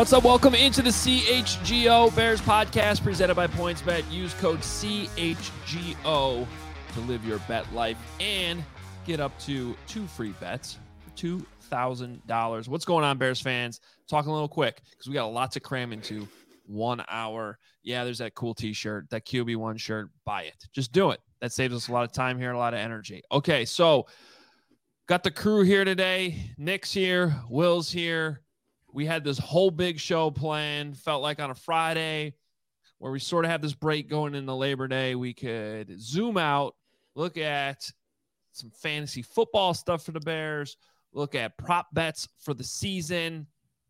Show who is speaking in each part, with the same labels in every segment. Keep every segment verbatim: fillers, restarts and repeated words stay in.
Speaker 1: What's up? Welcome into the C H G O Bears podcast presented by PointsBet. Use code C H G O to live your bet life and get up to two free bets for two thousand dollars. What's going on, Bears fans? Talking a little quick because we got a lot to cram into one hour. Yeah, there's that cool t-shirt, that Q B one shirt. Buy it. Just do it. That saves us a lot of time here, a lot of energy. Okay, so got the crew here today. Nick's here. Will's here. We had this whole big show planned, felt like on a Friday where we sort of have this break going into Labor Day. We could zoom out, look at some fantasy football stuff for the Bears, look at prop bets for the season.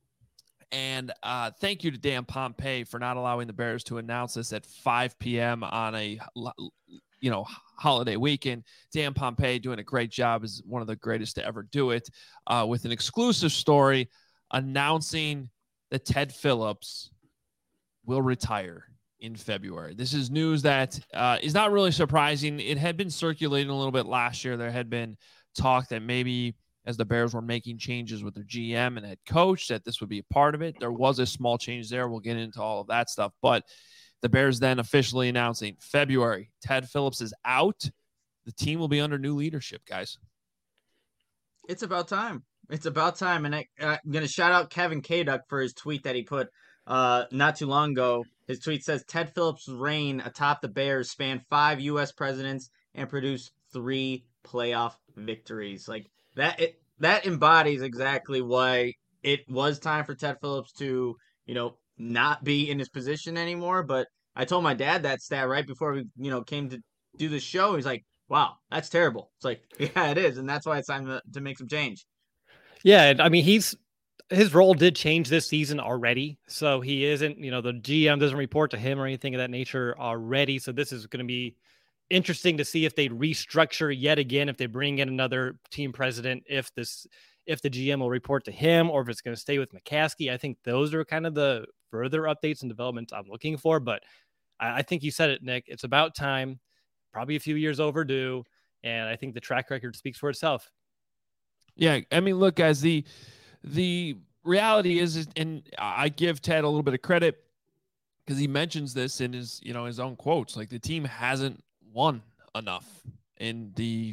Speaker 1: And uh, thank you to Dan Pompei for not allowing the Bears to announce this at five p.m. on a, you know, holiday weekend. Dan Pompei doing a great job, is one of the greatest to ever do it, uh, with an exclusive story announcing that Ted Phillips will retire in February. This is news that uh, is not really surprising. It had been circulating a little bit last year. There had been talk that maybe as the Bears were making changes with their G M and head coach, that this would be a part of it. There was a small change there. We'll get into all of that stuff. But the Bears then officially announcing February, Ted Phillips is out. The team will be under new leadership, guys.
Speaker 2: It's about time. It's about time. And I, I'm going to shout out Kevin Kaduk for his tweet that he put uh, not too long ago. His tweet says, Ted Phillips' reign atop the Bears spanned five U S presidents and produced three playoff victories. Like that, it, that embodies exactly why it was time for Ted Phillips to, you know, not be in his position anymore. But I told my dad that stat right before we, you know, came to do the show. He's like, wow, that's terrible. It's like, yeah, it is. And that's why it's time to, to make some change.
Speaker 3: Yeah, I mean, he's his role did change this season already. So he isn't, you know, the G M doesn't report to him or anything of that nature already. So this is going to be interesting to see if they restructure yet again, if they bring in another team president, if this, if the G M will report to him or if it's going to stay with McCaskey. I think those are kind of the further updates and developments I'm looking for. But I, I think you said it, Nick. It's about time, probably a few years overdue. And I think the track record speaks for itself.
Speaker 1: Yeah, I mean, look, guys, the the reality is, and I give Ted a little bit of credit because he mentions this in his, you know, his own quotes. Like the team hasn't won enough in the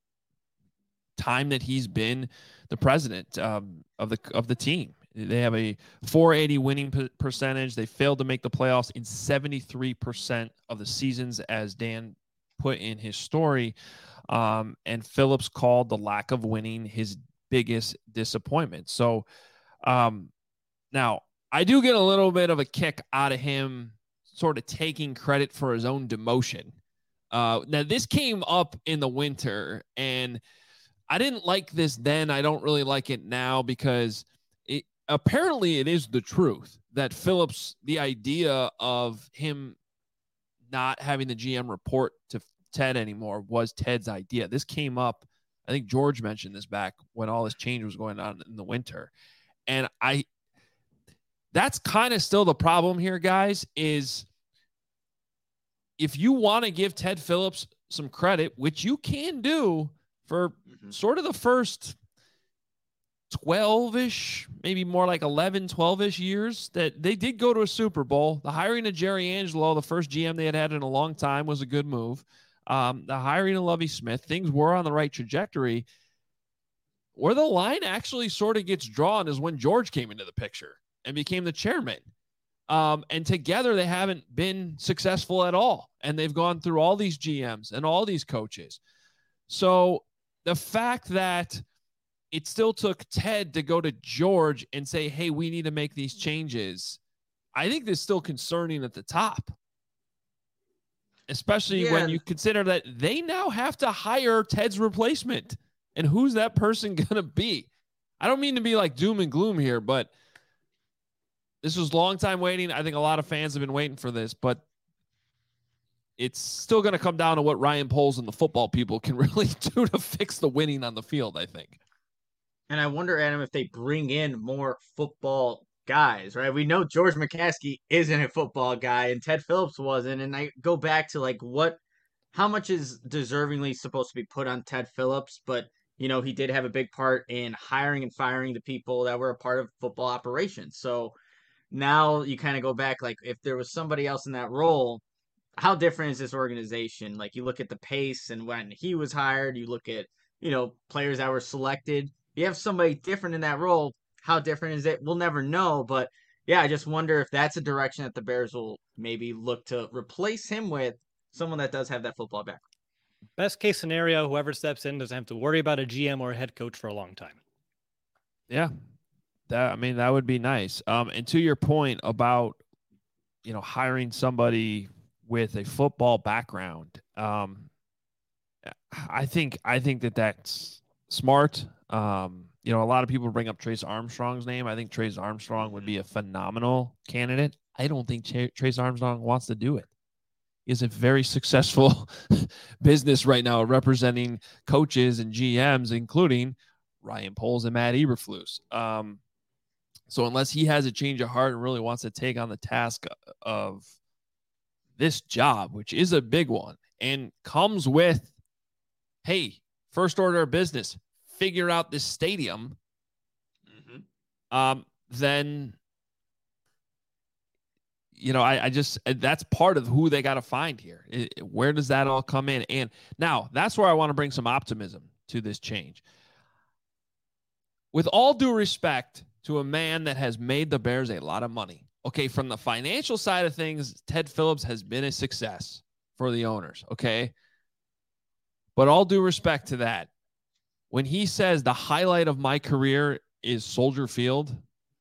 Speaker 1: time that he's been the president um, of the of the team. They have a four eighty winning p- percentage. They failed to make the playoffs in seventy-three percent of the seasons, as Dan put in his story. Um, and Phillips called the lack of winning his biggest disappointment. So um, now I do get a little bit of a kick out of him sort of taking credit for his own demotion. Uh, now this came up in the winter and I didn't like this then. I don't really like it now because it apparently it is the truth that Phillips, the idea of him not having the G M report to Ted anymore was Ted's idea. This came up, I think George mentioned this back when all this change was going on in the winter. And I, that's kind of still the problem here, guys, is if you want to give Ted Phillips some credit, which you can do for mm-hmm. sort of the first twelve-ish, maybe more like eleven, twelve-ish years that they did go to a Super Bowl. The hiring of Jerry Angelo, the first G M they had had in a long time, was a good move. Um, the hiring of Lovie Smith, things were on the right trajectory. Where the line actually sort of gets drawn is when George came into the picture and became the chairman. Um, and together they haven't been successful at all. And they've gone through all these G Ms and all these coaches. So the fact that it still took Ted to go to George and say, hey, we need to make these changes, I think that's still concerning at the top. Especially yeah. when you consider that they now have to hire Ted's replacement. And who's that person going to be? I don't mean to be like doom and gloom here, but this was long time waiting. I think a lot of fans have been waiting for this, but it's still going to come down to what Ryan Poles and the football people can really do to fix the winning on the field, I think.
Speaker 2: And I wonder, Adam, if they bring in more football guys, right? We know George McCaskey isn't a football guy and Ted Phillips wasn't. And I go back to like what, how much is deservingly supposed to be put on Ted Phillips? But, you know, he did have a big part in hiring and firing the people that were a part of football operations. So now you kind of go back, like if there was somebody else in that role, how different is this organization? Like you look at the pace and when he was hired, you look at, you know, players that were selected. You have somebody different in that role. How different is it? We'll never know. But yeah, I just wonder if that's a direction that the Bears will maybe look to replace him with, someone that does have that football background.
Speaker 3: Best case scenario, whoever steps in doesn't have to worry about a G M or a head coach for a long time.
Speaker 1: Yeah. That, I mean, that would be nice. Um, and to your point about, you know, hiring somebody with a football background, um, I think I think that that's smart. Um, you know, a lot of people bring up Trace Armstrong's name. I think Trace Armstrong would be a phenomenal candidate. I don't think Ch- Trace Armstrong wants to do it. He has a very successful business right now representing coaches and G Ms, including Ryan Poles and Matt Eberflus. Um, so unless he has a change of heart and really wants to take on the task of this job, which is a big one and comes with, hey, first order of business, figure out this stadium, mm-hmm. um, then, you know, I, I just, that's part of who they got to find here. It, where does that all come in? And now that's where I want to bring some optimism to this change. With all due respect to a man that has made the Bears a lot of money. Okay, from the financial side of things, Ted Phillips has been a success for the owners, okay? But all due respect to that, when he says the highlight of my career is Soldier Field,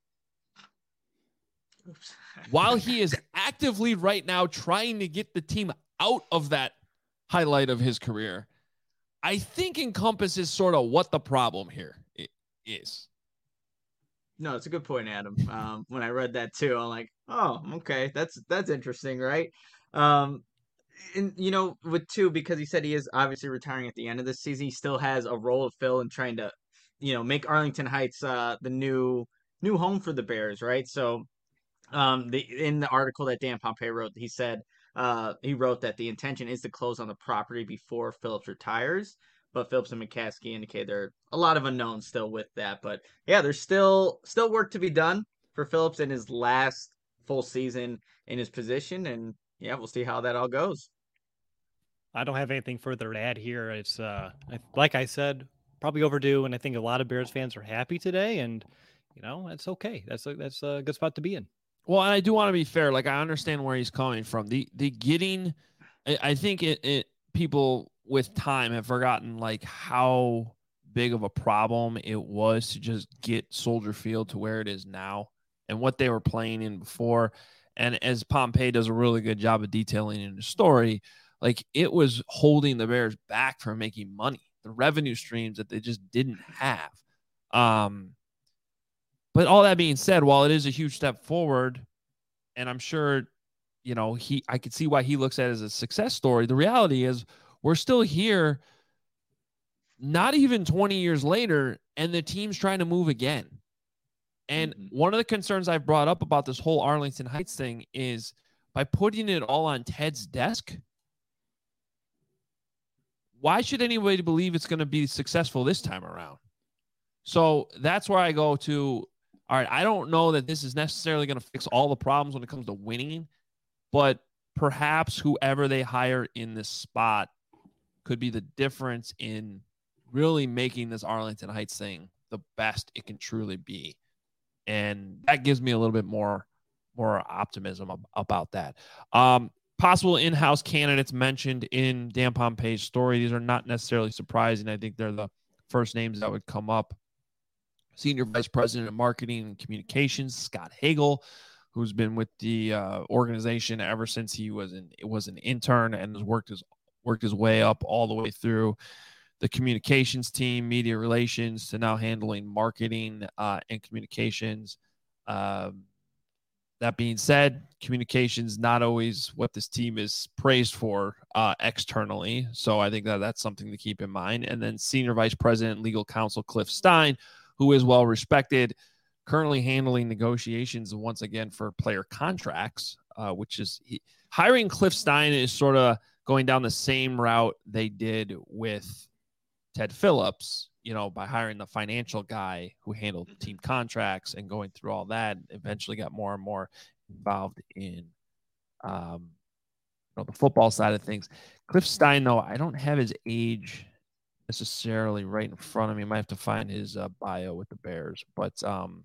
Speaker 1: Oops. While he is actively right now trying to get the team out of that highlight of his career, I think encompasses sort of what the problem here is.
Speaker 2: No, it's a good point, Adam. Um, when I read that too, I'm like, oh, okay, that's that's interesting, right? Um, and you know, with two, because he said he is obviously retiring at the end of this season, he still has a role to fill in trying to, you know, make Arlington Heights uh, the new new home for the Bears, right? So, um, the in the article that Dan Pompei wrote, he said uh, he wrote that the intention is to close on the property before Phillips retires. But Phillips and McCaskey indicate there are a lot of unknowns still with that. But yeah, there's still still work to be done for Phillips in his last full season in his position. And yeah, we'll see how that all goes.
Speaker 3: I don't have anything further to add here. It's uh, like I said, probably overdue, and I think a lot of Bears fans are happy today. And you know, it's okay. That's a, that's a good spot to be in.
Speaker 1: Well, and I do want to be fair. Like I understand where he's coming from. The the getting, I, I think it it people. with time have forgotten like how big of a problem it was to just get Soldier Field to where it is now and what they were playing in before. And as Pompei does a really good job of detailing in the story, like it was holding the Bears back from making money, the revenue streams that they just didn't have. Um, but all that being said, while it is a huge step forward, and I'm sure, you know, he, I could see why he looks at it as a success story. The reality is, we're still here, not even twenty years later, and the team's trying to move again. And mm-hmm. one of the concerns I've brought up about this whole Arlington Heights thing is by putting it all on Ted's desk, why should anybody believe it's going to be successful this time around? So that's where I go to, all right, I don't know that this is necessarily going to fix all the problems when it comes to winning, but perhaps whoever they hire in this spot could be the difference in really making this Arlington Heights thing the best it can truly be. And that gives me a little bit more, more optimism ab- about that. Um, possible in-house candidates mentioned in Dan Pompei's story. These are not necessarily surprising. I think they're the first names that would come up. Senior Vice President of Marketing and Communications, Scott Hagel, who's been with the uh, organization ever since he was an, was an intern and has worked his worked his way up all the way through the communications team, media relations, to now handling marketing uh, and communications. Um, that being said, communications not always what this team is praised for uh, externally. So I think that that's something to keep in mind. And then Senior Vice President, Legal Counsel Cliff Stein, who is well respected, currently handling negotiations once again for player contracts, uh, which is he, hiring Cliff Stein is sort of going down the same route they did with Ted Phillips you know, by hiring the financial guy who handled team contracts and going through all that, eventually got more and more involved in um, you know, the football side of things. Cliff Stein, though, I don't have his age necessarily right in front of me. I might have to find his uh, bio with the Bears, but um,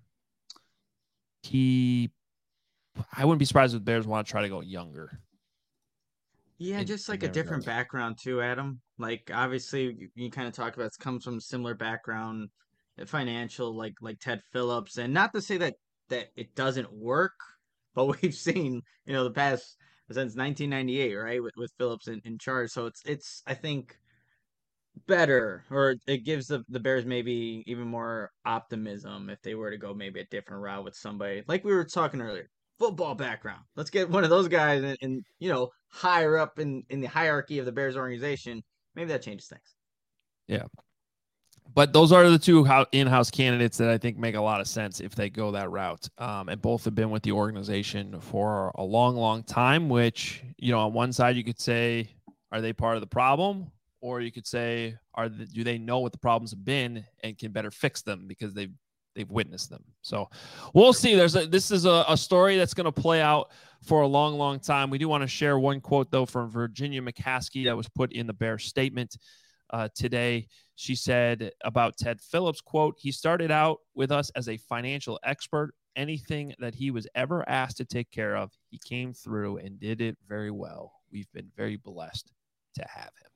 Speaker 1: he, I wouldn't be surprised if the Bears want to try to go younger.
Speaker 2: Yeah,
Speaker 1: in,
Speaker 2: just like
Speaker 1: in
Speaker 2: a different
Speaker 1: regard.
Speaker 2: background too, Adam. Like obviously you, you kind of talked about it comes from similar background, uh, financial, like like Ted Phillips, and not to say that that it doesn't work, but we've seen you know the past since nineteen ninety-eight, right, with with Phillips in, in charge. So it's it's I think better, or it gives the the Bears maybe even more optimism if they were to go maybe a different route with somebody like we were talking earlier. Football background. Let's get one of those guys and, and you know higher up in in the hierarchy of the Bears organization. Maybe that changes things.
Speaker 1: Yeah. But those are the two in-house candidates that I think make a lot of sense if they go that route. Um, and both have been with the organization for a long, long time, which, you know, on one side you could say, are they part of the problem? Or you could say, are the, do they know what the problems have been and can better fix them because they've they've witnessed them. So we'll see. There's a, this is a, a story that's going to play out for a long, long time. We do want to share one quote, though, from Virginia McCaskey that was put in the Bears statement uh, today. She said about Ted Phillips, quote, he started out with us as a financial expert. Anything that he was ever asked to take care of, he came through and did it very well. We've been very blessed to have him.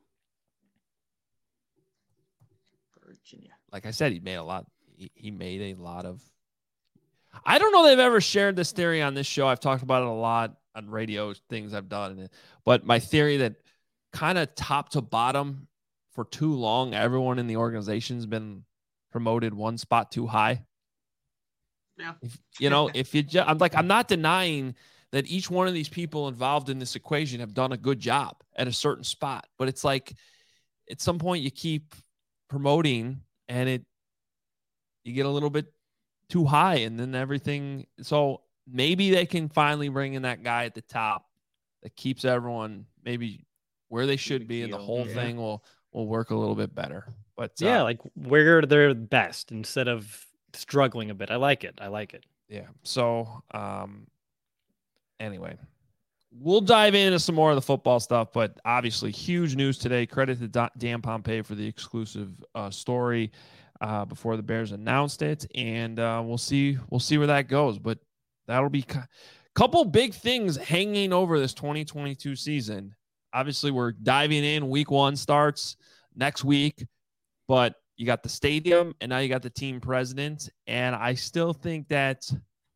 Speaker 2: Virginia.
Speaker 1: Like I said, he made a lot. He, he made a lot of. I don't know if they've ever shared this theory on this show. I've talked about it a lot on radio things I've done. But my theory that kind of top to bottom for too long, everyone in the organization's been promoted one spot too high.
Speaker 2: Yeah.
Speaker 1: If, you know, if you just, I'm like, I'm not denying that each one of these people involved in this equation have done a good job at a certain spot. But it's like at some point you keep promoting and it, you get a little bit too high and then everything. So maybe they can finally bring in that guy at the top that keeps everyone maybe where they should be, and the whole
Speaker 2: yeah.
Speaker 1: thing will, will work a little bit better. But
Speaker 3: yeah,
Speaker 1: uh,
Speaker 3: like where they're best instead of struggling a bit. I like it. I like it.
Speaker 1: Yeah. So, um, anyway, we'll dive into some more of the football stuff, but obviously huge news today. Credit to Dan Pompei for the exclusive uh, story uh, before the Bears announced it. And uh, we'll see, we'll see where that goes, but that'll be a couple big things hanging over this twenty twenty-two season. Obviously we're diving in. Week one starts next week, but you got the stadium and now you got the team president. And I still think that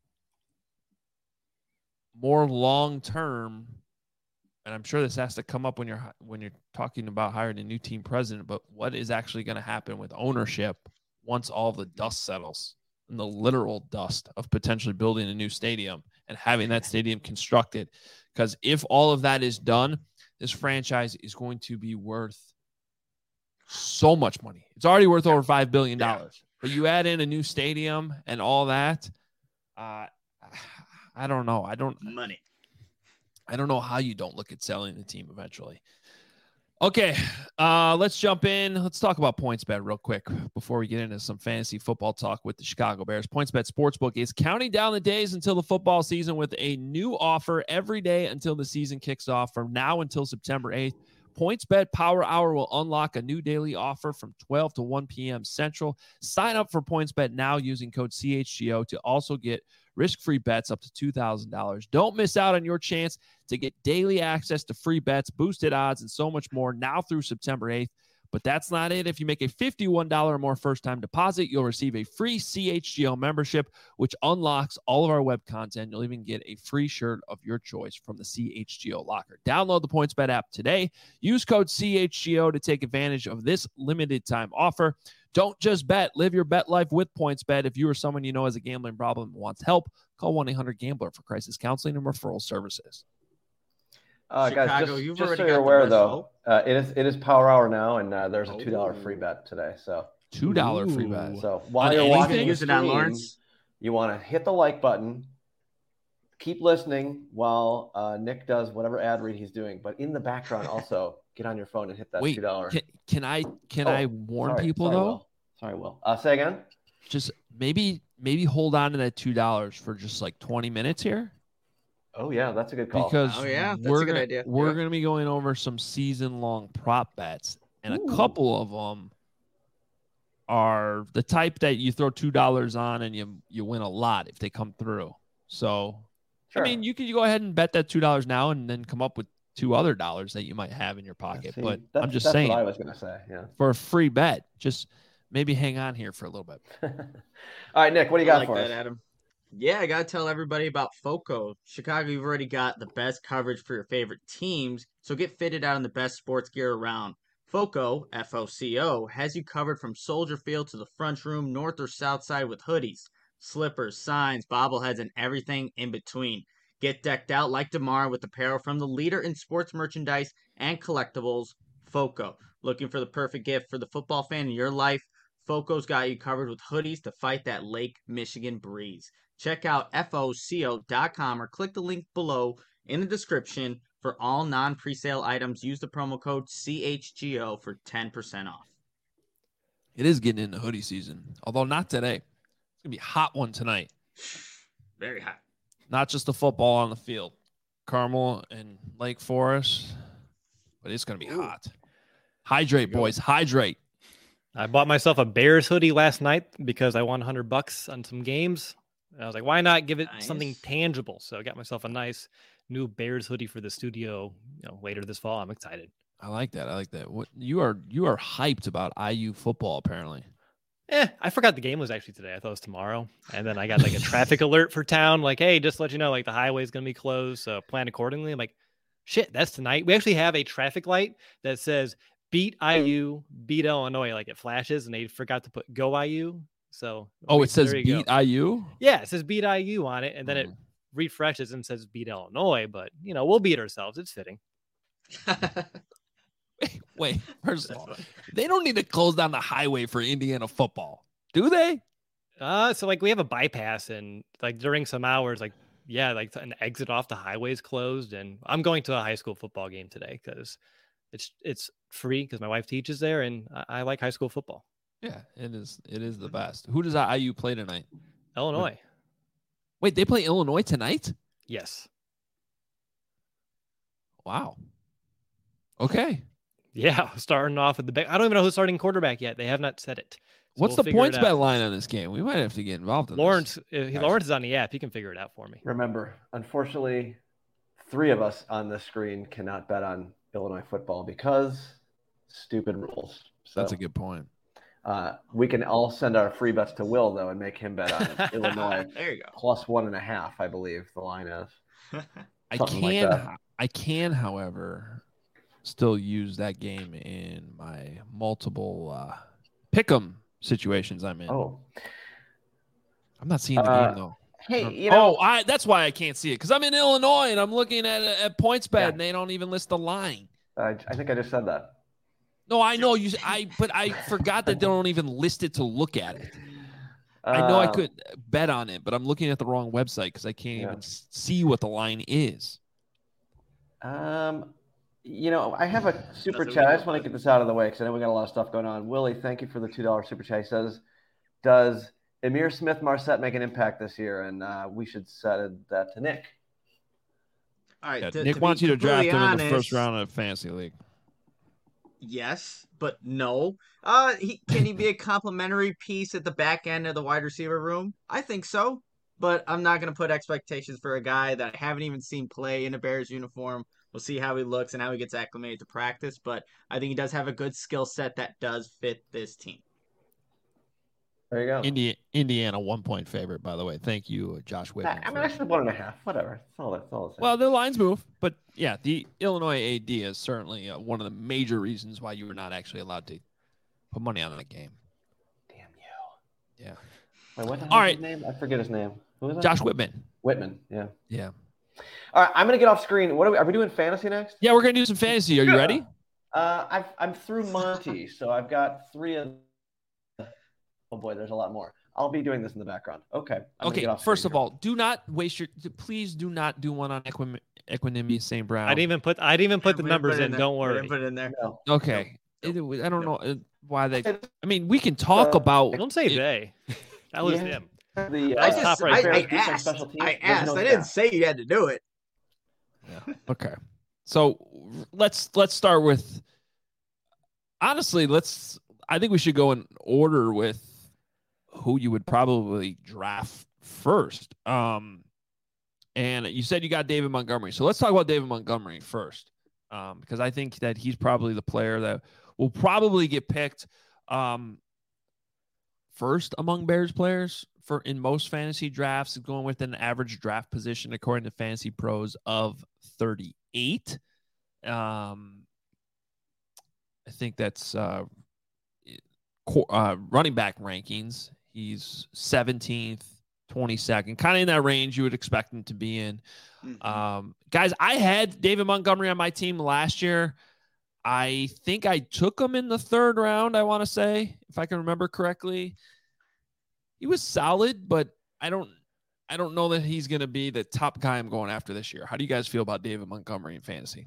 Speaker 1: more long-term, and I'm sure this has to come up when you're, when you're talking about hiring a new team president, but what is actually going to happen with ownership once all the dust settles and the literal dust of potentially building a new stadium and having that stadium constructed? Because if all of that is done, this franchise is going to be worth so much money. It's already worth over five billion dollars. Yeah. But you add in a new stadium and all that, uh, I don't know. I don't
Speaker 2: money.
Speaker 1: I don't know how you don't look at selling the team eventually. Okay, uh, let's jump in. Let's talk about PointsBet real quick before we get into some fantasy football talk with the Chicago Bears. PointsBet Sportsbook is counting down the days until the football season with a new offer every day until the season kicks off. From now until September eighth, PointsBet Power Hour will unlock a new daily offer from twelve to one p.m. Central. Sign up for PointsBet now using code C H G O to also get risk-free bets up to two thousand dollars. Don't miss out on your chance to get daily access to free bets, boosted odds, and so much more now through September eighth. But that's not it. If you make a fifty-one dollars or more first-time deposit, you'll receive a free C H G O membership, which unlocks all of our web content. You'll even get a free shirt of your choice from the C H G O locker. Download the PointsBet app today. Use code C H G O to take advantage of this limited-time offer. Don't just bet. Live your bet life with PointsBet. If you or someone you know has a gambling problem and wants help, call one eight hundred gambler for crisis counseling and referral services.
Speaker 4: Uh,
Speaker 2: Chicago,
Speaker 4: guys, just,
Speaker 2: you've
Speaker 4: just
Speaker 2: already
Speaker 4: so
Speaker 2: got
Speaker 4: you're
Speaker 2: the
Speaker 4: aware,
Speaker 2: best
Speaker 4: though,
Speaker 2: hope.
Speaker 4: uh, it is it is Power Hour now, and uh, there's a two dollar
Speaker 2: Oh.
Speaker 4: free bet today. So
Speaker 1: two dollars free bet.
Speaker 4: So while
Speaker 1: On
Speaker 4: you're
Speaker 1: anything?
Speaker 4: watching the
Speaker 2: Use it on
Speaker 4: stream,
Speaker 2: Lawrence.
Speaker 4: you want to hit the like button. Keep listening while uh, Nick does whatever ad read he's doing. But in the background, also get on your phone and hit that
Speaker 1: Wait,
Speaker 4: two dollar.
Speaker 1: can, can I can
Speaker 4: Oh,
Speaker 1: I warn
Speaker 4: sorry,
Speaker 1: people
Speaker 4: sorry,
Speaker 1: though?
Speaker 4: Will. Sorry, Will. Uh, say again.
Speaker 1: Just maybe maybe hold on to that two dollars for just like twenty minutes here.
Speaker 4: Oh yeah, that's a good call.
Speaker 1: Because
Speaker 2: Oh, yeah, that's
Speaker 1: we're
Speaker 2: a good
Speaker 1: gonna,
Speaker 2: idea.
Speaker 1: We're
Speaker 2: Yeah.
Speaker 1: going to be going over some season-long prop bets, and
Speaker 4: Ooh.
Speaker 1: a couple of them are the type that you throw two dollars on and you you win a lot if they come through. So,
Speaker 4: Sure.
Speaker 1: I mean, you can go ahead and bet that two dollars now and then come up with two other dollars that you might have in your pocket.
Speaker 4: See,
Speaker 1: but
Speaker 4: that's,
Speaker 1: I'm just
Speaker 4: that's
Speaker 1: saying,
Speaker 4: what I was gonna say. Yeah.
Speaker 1: for a free bet, just maybe hang on here for a little bit.
Speaker 4: All right, Nick, what do you
Speaker 2: I
Speaker 4: got
Speaker 2: like
Speaker 4: for
Speaker 2: that,
Speaker 4: us?
Speaker 2: Adam. Yeah, I gotta tell everybody about FOCO. Chicago, you've already got the best coverage for your favorite teams, so get fitted out in the best sports gear around. FOCO, F O C O, has you covered from Soldier Field to the front room, north or south side with hoodies, slippers, signs, bobbleheads, and everything in between. Get decked out like DeMar with apparel from the leader in sports merchandise and collectibles, FOCO. Looking for the perfect gift for the football fan in your life? FOCO's got you covered with hoodies to fight that Lake Michigan breeze. Check out F O C O dot com or click the link below in the description for all non-presale items. Use the promo code C H G O for ten percent off.
Speaker 1: It is getting into hoodie season, although not today. It's going to be a hot one tonight.
Speaker 2: Very hot.
Speaker 1: Not just the football on the field. Carmel and Lake Forest, but it's going to be
Speaker 2: Ooh.
Speaker 1: hot. Hydrate, boys. Hydrate.
Speaker 3: I bought myself a Bears hoodie last night because I won one hundred bucks on some games. And I was like, why not give it
Speaker 2: Nice.
Speaker 3: something tangible? So I got myself a nice new Bears hoodie for the studio, you know, later this fall. I'm excited.
Speaker 1: I like that. I like that. What you are you are hyped about I U football apparently.
Speaker 3: Eh, I forgot the game was actually today. I thought it was tomorrow. And then I got like a traffic alert for town. Like, hey, just to let you know, like the highway's going to be closed. So plan accordingly. I'm like, shit, that's tonight. We actually have a traffic light that says beat I U, beat Illinois. Like it flashes and they forgot to put go I U. So,
Speaker 1: Oh,
Speaker 3: we-
Speaker 1: it says
Speaker 3: there you go.
Speaker 1: beat I U?
Speaker 3: Yeah, it says beat I U on it. And then it
Speaker 1: Mm.
Speaker 3: refreshes and says beat Illinois. But, you know, we'll beat ourselves. It's fitting.
Speaker 1: Wait, wait, first of all, they don't need to close down the highway for Indiana football, do they?
Speaker 3: Uh, so like we have a bypass and like during some hours, like, yeah, like an exit off the highway is closed. And I'm going to a high school football game today because it's it's free because my wife teaches there and I, I like high school football.
Speaker 1: Yeah, it is. It is the best. Who does I U play tonight?
Speaker 3: Illinois.
Speaker 1: Wait, they play Illinois tonight?
Speaker 3: Yes.
Speaker 1: Wow. Okay.
Speaker 3: Yeah, starting off with the back. I don't even know who's starting quarterback yet. They have not said it. So
Speaker 1: What's
Speaker 3: we'll
Speaker 1: the
Speaker 3: figure
Speaker 1: points
Speaker 3: it
Speaker 1: bet
Speaker 3: out.
Speaker 1: line on this game? We might have to get involved in
Speaker 3: Lawrence,
Speaker 1: this.
Speaker 3: uh, he,
Speaker 1: Guys.
Speaker 3: Lawrence is on the app. He can figure it out for me.
Speaker 4: Remember, unfortunately, three of us on this screen cannot bet on Illinois football because stupid rules. So,
Speaker 1: That's a good point.
Speaker 4: Uh, we can all send our free bets to Will though and make him bet on Illinois
Speaker 2: There you go.
Speaker 4: plus one and a half. I believe the line is.
Speaker 1: I
Speaker 4: Something like
Speaker 1: can,
Speaker 4: that.
Speaker 1: I can, however, still use that game in my multiple uh, pick'em situations I'm in.
Speaker 4: Oh,
Speaker 1: I'm not seeing the
Speaker 4: Uh,
Speaker 1: game though.
Speaker 4: hey, you know,
Speaker 1: oh, I, that's why I can't see it because I'm in Illinois and I'm looking at at points bet
Speaker 4: Yeah.
Speaker 1: and they don't even list the line.
Speaker 4: I, I think I just said that.
Speaker 1: No, I know you. I but I forgot that they don't even list it to look at it. I know I
Speaker 4: Uh,
Speaker 1: could bet on it, but I'm looking at the wrong website because I can't
Speaker 4: Yeah.
Speaker 1: even s- see what the line is.
Speaker 4: Um, you know, I have a super
Speaker 2: That's
Speaker 4: chat. I
Speaker 2: okay.
Speaker 4: just want to get this out of the way because I know we got a lot of stuff going on. Willie, thank you for the two dollar super chat. He says, "Does Emir Smith Marset make an impact this year?" And uh, we should send that to Nick.
Speaker 2: All right.
Speaker 1: Yeah,
Speaker 2: to-
Speaker 1: Nick
Speaker 2: to be
Speaker 1: wants you to draft him
Speaker 2: completely
Speaker 1: in the first
Speaker 2: honest,
Speaker 1: round of fantasy league.
Speaker 2: Yes, but no. Uh, he, can he be a complimentary piece at the back end of the wide receiver room? I think so, but I'm not going to put expectations for a guy that I haven't even seen play in a Bears uniform. We'll see how he looks and how he gets acclimated to practice, but I think he does have a good skill set that does fit this team.
Speaker 4: There you go.
Speaker 1: Indi- Indiana one point favorite, by the way. Thank you, Josh Whitman.
Speaker 4: I mean,
Speaker 1: for-
Speaker 4: I said one and a half. Whatever. That's all. That's all.
Speaker 1: Well, the lines move, but yeah, the Illinois A D is certainly uh, one of the major reasons why you were not actually allowed to put money on that game.
Speaker 4: damn you.
Speaker 1: Yeah,
Speaker 4: Wait, what the
Speaker 1: All
Speaker 4: hell is
Speaker 1: right.
Speaker 4: his name? I forget his name. Who was that?
Speaker 1: Josh Whitman.
Speaker 4: Whitman. Yeah.
Speaker 1: Yeah,
Speaker 4: All right, I'm gonna get off screen. What are we? Are we doing fantasy next?
Speaker 1: yeah, we're gonna do some fantasy. Are you ready?
Speaker 4: Uh, I've, I'm through Monty, so I've got three of. Oh boy, there's a lot more. I'll be doing this in the background. Okay. I'm gonna
Speaker 1: Okay.
Speaker 4: get off
Speaker 1: First
Speaker 4: screen
Speaker 1: of all, do not waste your. Please do not do one on Equim- Equanimity Saint Brown.
Speaker 3: I didn't even put I didn't even put the
Speaker 2: We didn't
Speaker 3: numbers
Speaker 2: it
Speaker 3: in.
Speaker 2: there.
Speaker 3: Don't
Speaker 2: We
Speaker 3: worry.
Speaker 2: didn't put it in there.
Speaker 4: here. No.
Speaker 1: Okay.
Speaker 2: Nope.
Speaker 1: It- I don't
Speaker 2: Nope.
Speaker 1: know. Uh, why they. I mean, we can talk
Speaker 4: Uh,
Speaker 1: about.
Speaker 3: Don't say
Speaker 1: it-
Speaker 3: they. That was
Speaker 4: Yeah.
Speaker 3: him.
Speaker 4: The,
Speaker 2: I
Speaker 3: was
Speaker 4: uh,
Speaker 3: top
Speaker 2: just
Speaker 3: right
Speaker 2: I,
Speaker 3: there.
Speaker 2: I
Speaker 4: Bears defense,
Speaker 2: asked.
Speaker 4: special teams,
Speaker 2: I
Speaker 4: there's
Speaker 2: asked.
Speaker 4: no
Speaker 2: I didn't
Speaker 4: staff.
Speaker 2: say you had to do it.
Speaker 1: Yeah. Okay. So let's let's start with. Honestly, let's. I think we should go in order with who you would probably draft first. Um, and you said you got David Montgomery, so let's talk about David Montgomery first, um, because I think that he's probably the player that will probably get picked um, first among Bears players for in most fantasy drafts, going with an average draft position according to Fantasy Pros of thirty-eight. Um, I think that's uh, uh, running back rankings. He's seventeenth, twenty-second, kind of in that range you would expect him to be in.
Speaker 2: Mhm.
Speaker 1: Um, guys, I had David Montgomery on my team last year. I think I took him in the third round, I want to say, if I can remember correctly. He was solid, but I don't I don't know that he's going to be the top guy I'm going after this year. How do you guys feel about David Montgomery in fantasy?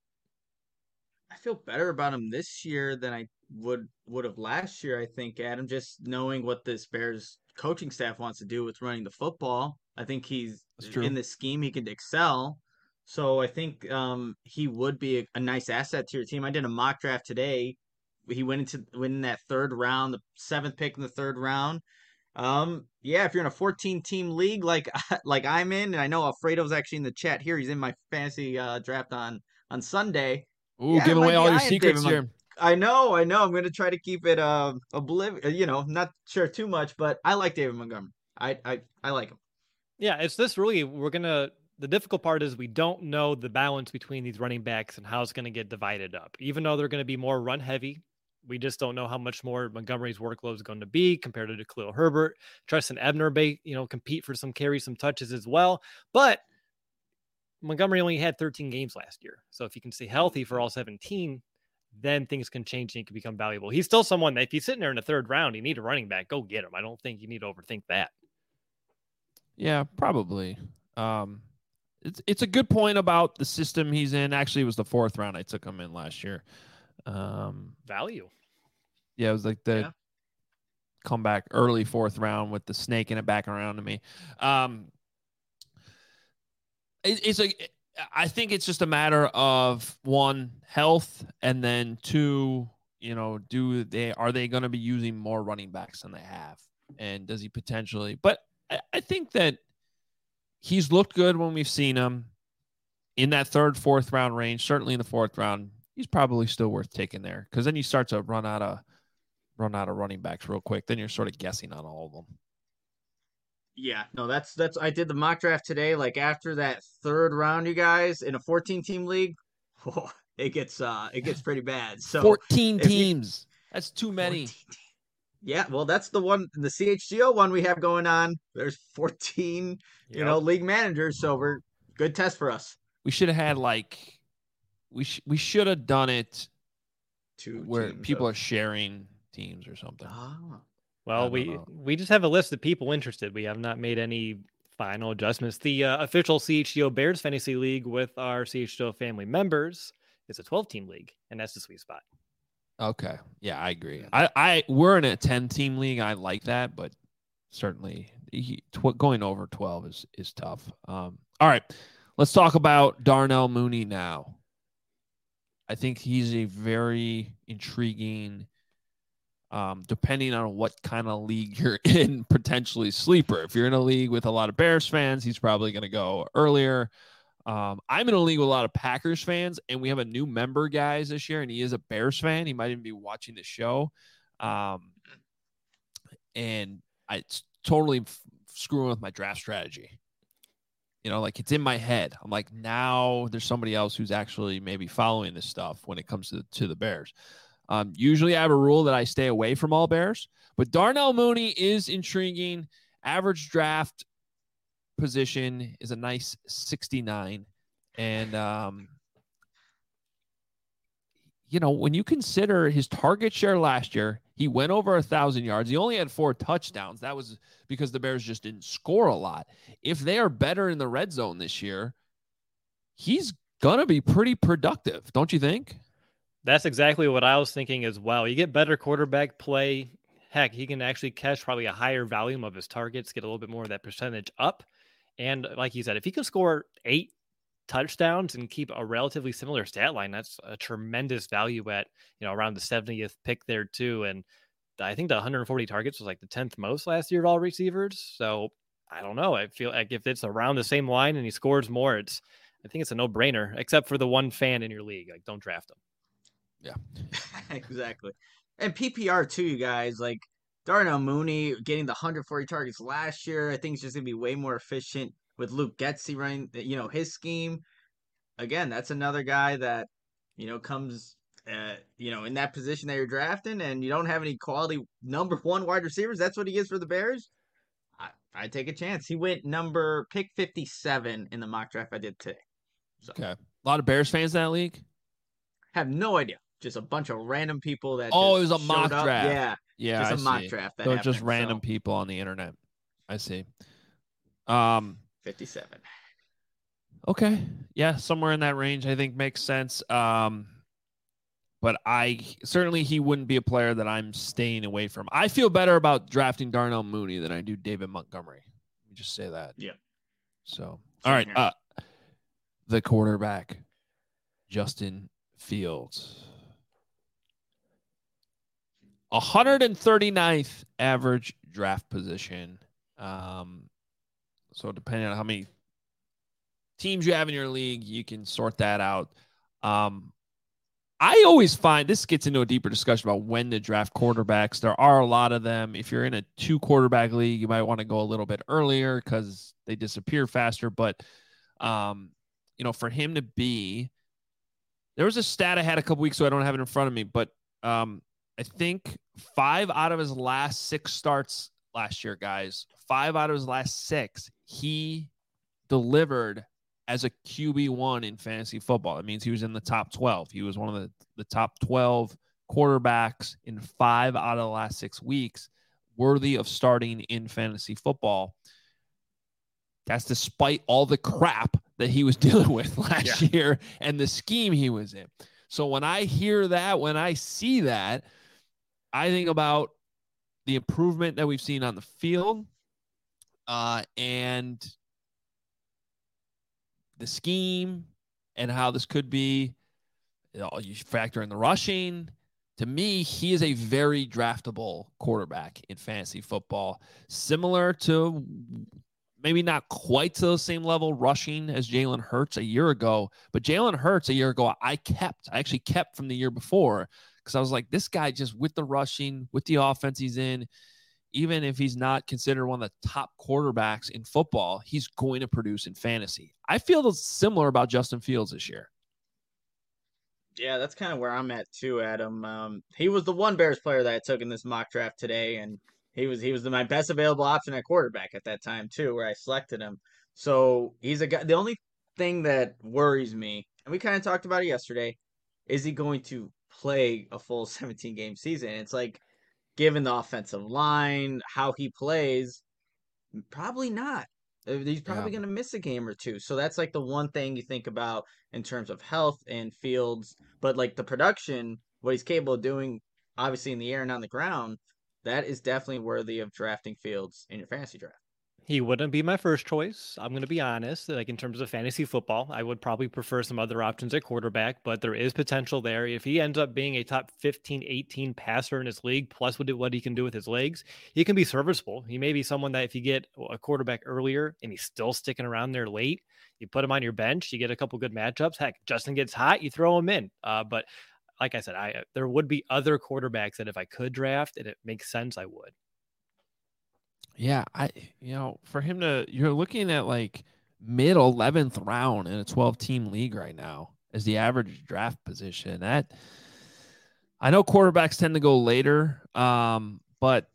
Speaker 2: I feel better about him this year than I would would have last year. I think Adam, just knowing what this Bears coaching staff wants to do with running the football, I think he's
Speaker 1: That's true.
Speaker 2: in this scheme he could excel. So I think um, he would be a, a nice asset to your team. I did a mock draft today. He went into win that third round, the seventh pick in the third round. Um, yeah, if you're in a fourteen team league like like I'm in, and I know Alfredo's actually in the chat here. He's in my fantasy uh, draft on on Sunday.
Speaker 1: Ooh,
Speaker 2: Yeah, it
Speaker 1: giving
Speaker 2: might
Speaker 1: away
Speaker 2: be
Speaker 1: all your
Speaker 2: eyeing
Speaker 1: secrets
Speaker 2: David
Speaker 1: here.
Speaker 2: I know, I know. I'm gonna try to keep it uh obliv- you know, not sure too much, but I like David Montgomery. I I I like him.
Speaker 3: Yeah, it's this really, we're going to, the difficult part is we don't know the balance between these running backs and how it's going to get divided up. Even though they're going to be more run heavy, we just don't know how much more Montgomery's workload is going to be compared to Khalil Herbert. Tristan Ebner may, you know, compete for some carries, some touches as well. But Montgomery only had thirteen games last year. So if he can stay healthy for all seventeen, then things can change and he can become valuable. He's still someone that if he's sitting there in the third round, you need a running back, go get him. I don't think you need to overthink that.
Speaker 1: Yeah, probably. Um, it's it's a good point about the system he's in. Actually, it was the fourth round I took him in last year. Um,
Speaker 3: Value.
Speaker 1: yeah, it was like the
Speaker 2: Yeah.
Speaker 1: comeback early fourth round with the snake in it back around to me. Um, it, it's a. I think it's just a matter of one, health, and then two, you know, do they are they going to be using more running backs than they have, and does he potentially? But I, I think that he's looked good when we've seen him in that third, fourth round range. Certainly in the fourth round, he's probably still worth taking there because then you start to run out of run out of running backs real quick. Then you're sort of guessing on all of them.
Speaker 2: Yeah, no, that's that's I did the mock draft today. Like after that third round, you guys in a fourteen team league, oh, it gets uh it gets pretty bad. So
Speaker 1: fourteen
Speaker 2: if you-
Speaker 1: teams. That's too many.
Speaker 2: fourteen Yeah, well, that's the one, the C H G O one we have going on. There's fourteen, you know, league managers, so we're good test for us.
Speaker 1: We should have had like we sh- we should have done it
Speaker 2: Two
Speaker 1: where
Speaker 2: teams
Speaker 1: people
Speaker 2: of-
Speaker 1: are sharing teams or something.
Speaker 2: Ah.
Speaker 1: I
Speaker 3: Well,
Speaker 1: don't
Speaker 3: we
Speaker 1: know.
Speaker 3: we just have a list of people interested. We have not made any final adjustments. The uh, official C H G O Bears Fantasy League with our C H G O family members is a twelve team league, and that's the sweet spot.
Speaker 1: Okay. Yeah, I agree. I, I we're in a ten team league. I like that, but certainly he, tw- going over twelve is is tough. Um, all right, let's talk about Darnell Mooney now. I think he's a very intriguing, um, depending on what kind of league you're in, potentially sleeper. If you're in a league with a lot of Bears fans, he's probably going to go earlier. Um, I'm in a league with a lot of Packers fans, and we have a new member, guys, this year, and he is a Bears fan. He might even be watching the show. Um, and I, it's totally f- screwing with my draft strategy. You know, like it's in my head. I'm like, now there's somebody else who's actually maybe following this stuff when it comes to, to the Bears. Um, usually I have a rule that I stay away from all Bears, but Darnell Mooney is intriguing. Average draft position is a nice sixty-nine. And, um, you know, when you consider his target share last year, he went over a thousand yards. He only had four touchdowns. That was because the Bears just didn't score a lot. If they are better in the red zone this year, he's going to be pretty productive. Don't you think?
Speaker 3: That's exactly what I was thinking as well. You get better quarterback play. Heck, he can actually catch probably a higher volume of his targets, get a little bit more of that percentage up. And like you said, if he can score eight touchdowns and keep a relatively similar stat line, that's a tremendous value at, you know, around the seventieth pick there too. And I think the one hundred forty targets was like the tenth most last year of all receivers. So I don't know. I feel like if it's around the same line and he scores more, it's, I think it's a no brainer, except for the one fan in your league. Like, don't draft him.
Speaker 1: Yeah,
Speaker 2: exactly. And P P R too, you guys. Like Darnell Mooney getting the one hundred forty targets last year. I think it's just gonna be way more efficient with Luke Getsy running, you know, his scheme. Again, that's another guy that, you know, comes, uh, you know, in that position that you're drafting, and you don't have any quality number one wide receivers. That's what he is for the Bears. I I take a chance. He went number pick fifty-seven in the mock draft I did today. So.
Speaker 1: Okay. A lot of Bears fans in that league?
Speaker 2: Have no idea. Just a bunch of random people that.
Speaker 1: Oh,
Speaker 2: just
Speaker 1: it was a mock
Speaker 2: up.
Speaker 1: draft.
Speaker 2: Yeah.
Speaker 1: Yeah.
Speaker 2: Just
Speaker 1: I
Speaker 2: a mock
Speaker 1: see.
Speaker 2: draft. That
Speaker 1: so
Speaker 2: happened,
Speaker 1: just random
Speaker 2: so.
Speaker 1: people on the internet. I see. Um,
Speaker 2: fifty-seven.
Speaker 1: Okay. Yeah. Somewhere in that range, I think makes sense. Um, but I certainly he wouldn't be a player that I'm staying away from. I feel better about drafting Darnell Mooney than I do David Montgomery. Let me just say that.
Speaker 2: Yeah.
Speaker 1: So,
Speaker 2: Same
Speaker 1: all right.
Speaker 2: here.
Speaker 1: Uh, the quarterback, Justin Fields. one hundred thirty-ninth average draft position. Um, so depending on how many teams you have in your league, you can sort that out. Um, I always find this gets into a deeper discussion about when to draft quarterbacks. There are a lot of them. If you're in a two quarterback league, you might want to go a little bit earlier because they disappear faster. But, um, you know, for him to be, there was a stat I had a couple weeks ago. I don't have it in front of me, but um, I think five out of his last six starts last year, guys, five out of his last six, he delivered as a Q B one in fantasy football. That means he was in the top twelve. He was one of the, the top twelve quarterbacks in five out of the last six weeks, worthy of starting in fantasy football. That's despite all the crap that he was dealing with last yeah. year and the scheme he was in. So when I hear that, when I see that, I think about the improvement that we've seen on the field uh, and the scheme and how this could be, you know, you factor in the rushing. To me, he is a very draftable quarterback in fantasy football, similar to maybe not quite to the same level rushing as Jalen Hurts a year ago, but Jalen Hurts a year ago, I kept, I actually kept from the year before because I was like, this guy just with the rushing, with the offense he's in, even if he's not considered one of the top quarterbacks in football, he's going to produce in fantasy. I feel similar about Justin Fields this year.
Speaker 2: Yeah, that's kind of where I'm at too, Adam. Um, he was the one Bears player that I took in this mock draft today, and he was he was the, my best available option at quarterback at that time too, where I selected him. So he's a guy. The only thing that worries me, and we kind of talked about it yesterday, is he going to play a full seventeen game season? It's like, given the offensive line, how he plays, probably not. He's probably yeah. going to miss a game or two. So that's like the one thing you think about in terms of health and Fields. But like the production, what he's capable of doing, obviously in the air and on the ground, that is definitely worthy of drafting Fields in your fantasy draft.
Speaker 3: He wouldn't be my first choice. I'm going to be honest. Like in terms of fantasy football, I would probably prefer some other options at quarterback, but there is potential there. If he ends up being a top fifteen, eighteen passer in his league, plus what he can do with his legs, he can be serviceable. He may be someone that if you get a quarterback earlier and he's still sticking around there late, you put him on your bench, you get a couple good matchups. Heck, Justin gets hot, you throw him in. Uh, but like I said, I there would be other quarterbacks that if I could draft and it makes sense, I would.
Speaker 1: Yeah, I you know, for him to you're looking at like mid eleventh round in a twelve team league right now as the average draft position. That I know quarterbacks tend to go later, um, but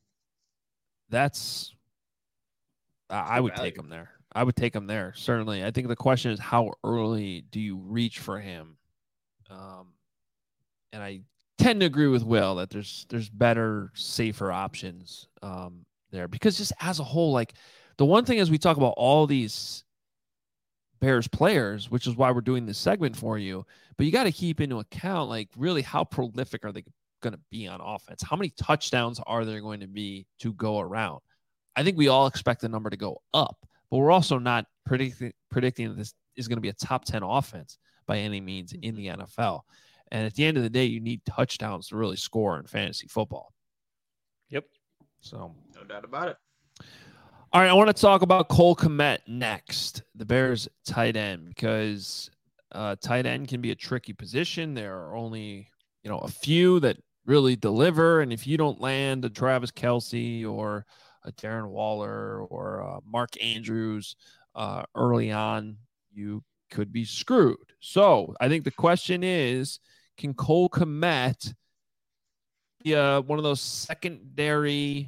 Speaker 1: that's I, I would take him there. I would take him there, certainly. I think the question is how early do you reach for him? Um, and I tend to agree with Will that there's there's better, safer options um, there because just as a whole, like the one thing is we talk about all these Bears players, which is why we're doing this segment for you. But you got to keep into account, like, really how prolific are they going to be on offense? How many touchdowns are there going to be to go around? I think we all expect the number to go up, but we're also not predicting predicting that this is going to be a top ten offense by any means in the N F L. And at the end of the day, you need touchdowns to really score in fantasy football.
Speaker 3: Yep.
Speaker 1: So
Speaker 2: no doubt about it.
Speaker 1: All right, I want to talk about Cole Kmet next, the Bears tight end, because uh, tight end can be a tricky position. There are only, you know, a few that really deliver, and if you don't land a Travis Kelce or a Darren Waller or uh, Mark Andrews uh, early on, you could be screwed. So I think the question is, can Cole Kmet be uh, one of those secondary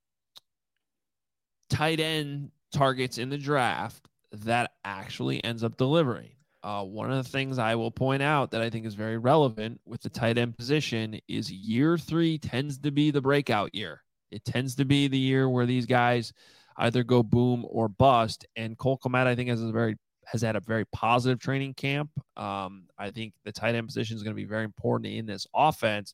Speaker 1: tight end targets in the draft that actually ends up delivering? Uh, one of the things I will point out that I think is very relevant with the tight end position is year three tends to be the breakout year. It tends to be the year where these guys either go boom or bust. And Cole Kmet, I think, has a very has had a very positive training camp. Um, I think the tight end position is going to be very important in this offense.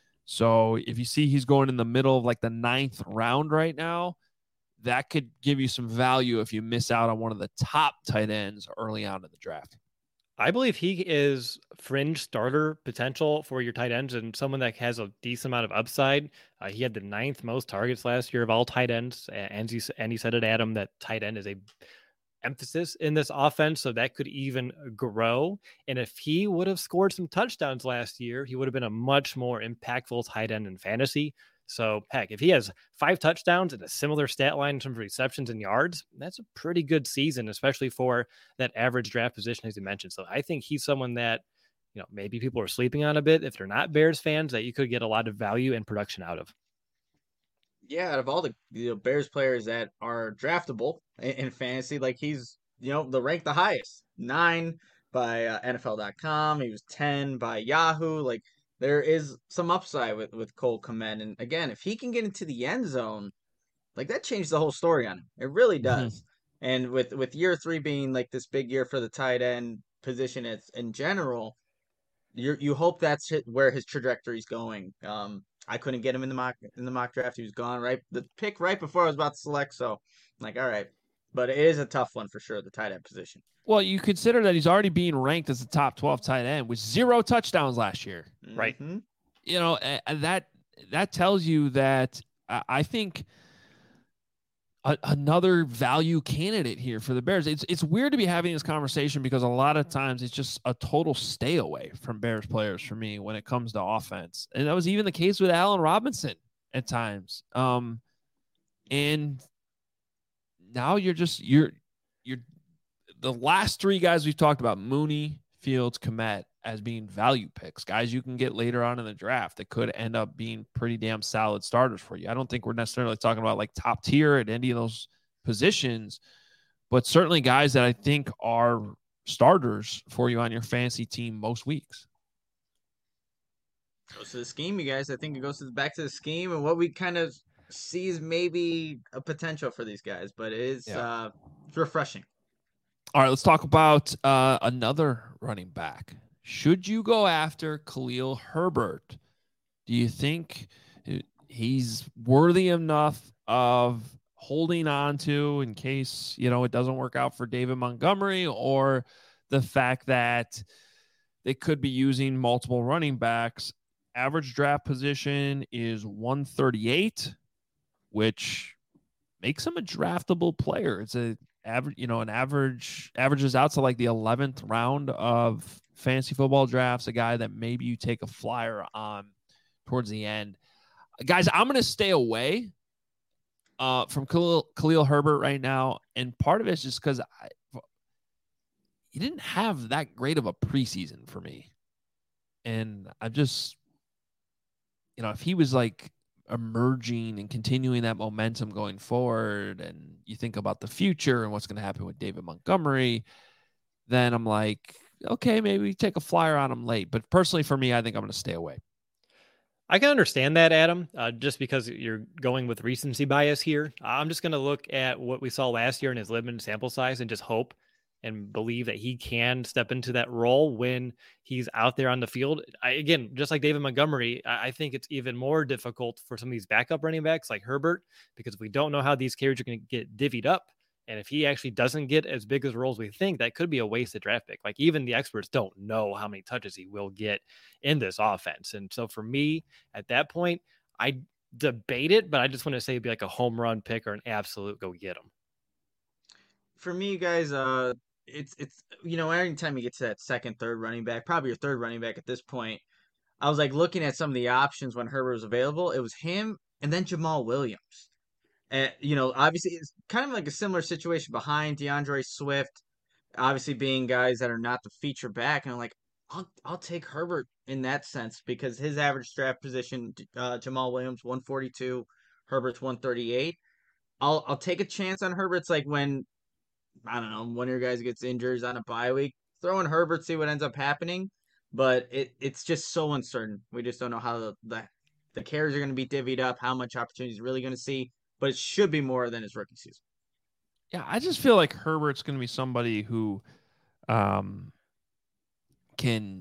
Speaker 1: So if you see he's going in the middle of like the ninth round right now, that could give you some value if you miss out on one of the top tight ends early on in the draft.
Speaker 3: I believe he is fringe starter potential for your tight ends and someone that has a decent amount of upside. Uh, he had the ninth most targets last year of all tight ends. And he, and he said it, Adam, that tight end is a emphasis in this offense. So that could even grow. And if he would have scored some touchdowns last year, he would have been a much more impactful tight end in fantasy. So, heck, if he has five touchdowns and a similar stat line in terms of receptions and yards, that's a pretty good season, especially for that average draft position, as you mentioned. So I think he's someone that, you know, maybe people are sleeping on a bit if they're not Bears fans, that you could get a lot of value and production out of.
Speaker 2: Yeah, out of all the you know, Bears players that are draftable in, in fantasy, like he's, you know, the rank the highest. Nine by uh, N F L dot com. He was ten by Yahoo. Like, there is some upside with, with Cole Kmet. And again, if he can get into the end zone, like, that changed the whole story on him. It really does. Mm-hmm. And with, with year three being like this big year for the tight end position it's, in general, you you hope that's where his trajectory is going. Um, I couldn't get him in the mock in the mock draft. He was gone right the pick right before I was about to select. So I'm like, all right. But it is a tough one for sure, the tight end position.
Speaker 1: Well, you consider that he's already being ranked as a top twelve tight end with zero touchdowns last year.
Speaker 3: Right.
Speaker 2: Mm-hmm.
Speaker 1: You know, that that tells you that I think a, another value candidate here for the Bears. It's it's weird to be having this conversation because a lot of times it's just a total stay away from Bears players for me when it comes to offense. And that was even the case with Allen Robinson at times. Um, and now you're just you're you're the last three guys we've talked about, Mooney, Fields, Kmet, as being value picks, guys you can get later on in the draft that could end up being pretty damn solid starters for you. I don't think we're necessarily talking about like top tier at any of those positions, but certainly guys that I think are starters for you on your fantasy team most weeks.
Speaker 2: Goes to the scheme, you guys. I think it goes to the, back to the scheme and what we kind of see is maybe a potential for these guys, but it is yeah. uh, it's refreshing.
Speaker 1: All right, let's talk about uh, another running back. Should you go after Khalil Herbert? Do you think he's worthy enough of holding on to in case, you know, it doesn't work out for David Montgomery, or the fact that they could be using multiple running backs? Average draft position is one thirty-eight, which makes him a draftable player. It's a average, you know, an average averages out to like the eleventh round of fantasy football drafts, a guy that maybe you take a flyer on towards the end. Guys, I'm going to stay away uh, from Khalil, Khalil Herbert right now. And part of it is just because he didn't have that great of a preseason for me. And I'm just, you know, if he was like emerging and continuing that momentum going forward, and you think about the future and what's going to happen with David Montgomery, then I'm like, okay, maybe take a flyer on him late. But personally, for me, I think I'm going to stay away.
Speaker 3: I can understand that, Adam, uh, just because you're going with recency bias here. I'm just going to look at what we saw last year in his limited sample size and just hope and believe that he can step into that role when he's out there on the field. I, again, just like David Montgomery, I, I think it's even more difficult for some of these backup running backs like Herbert, because we don't know how these carries are going to get divvied up. And if he actually doesn't get as big as roles we think, that could be a wasted draft pick. Like even the experts don't know how many touches he will get in this offense. And so for me at that point, I debate it, but I just want to say it'd be like a home run pick or an absolute go get him.
Speaker 2: For me, guys, uh, it's it's you know, anytime you get to that second, third running back, probably your third running back at this point, I was like looking at some of the options when Herbert was available. It was him and then Jamal Williams. And you know, obviously it's kind of like a similar situation behind DeAndre Swift, obviously being guys that are not the feature back. And I'm like, I'll I'll take Herbert in that sense because his average draft position, uh, Jamal Williams one forty-two, Herbert's one thirty-eight. I'll I'll take a chance on Herbert's like when I don't know, one of your guys gets injured on a bye week, throw in Herbert, see what ends up happening. But it it's just so uncertain. We just don't know how the the, the carries are going to be divvied up, how much opportunity he's really going to see. But it should be more than his rookie season.
Speaker 1: Yeah, I just feel like Herbert's going to be somebody who um, can,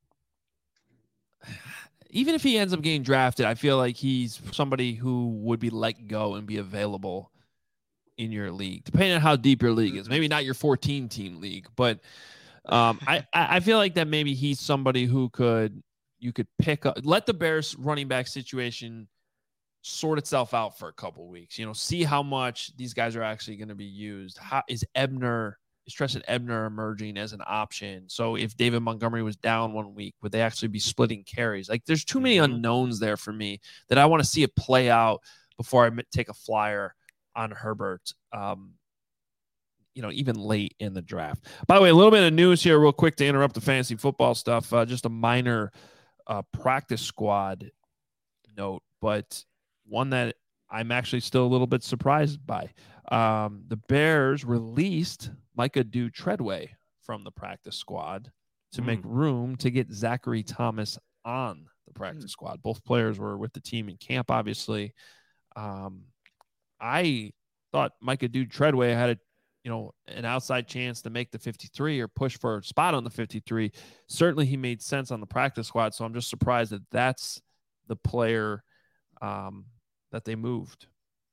Speaker 1: even if he ends up getting drafted, I feel like he's somebody who would be let go and be available in your league, depending on how deep your league is. Maybe not your fourteen team league, but um, I, I feel like that maybe he's somebody who could, you could pick up, let the Bears running back situation sort itself out for a couple weeks, you know, see how much these guys are actually going to be used. How is Ebner, is Treston Ebner emerging as an option? So if David Montgomery was down one week, would they actually be splitting carries? Like there's too many unknowns there for me that I want to see it play out before I take a flyer on Herbert, um, you know, even late in the draft. By the way, a little bit of news here real quick to interrupt the fantasy football stuff. Uh, just a minor uh, practice squad note, but one that I'm actually still a little bit surprised by. Um, the Bears released Micah Dew Treadway from the practice squad to mm. make room to get Zachary Thomas on the practice mm. squad. Both players were with the team in camp, obviously. Um, I thought Micah Dew Treadway had a, you know, an outside chance to make the fifty-three or push for a spot on the fifty-three. Certainly he made sense on the practice squad. So I'm just surprised that that's the player um, that they moved.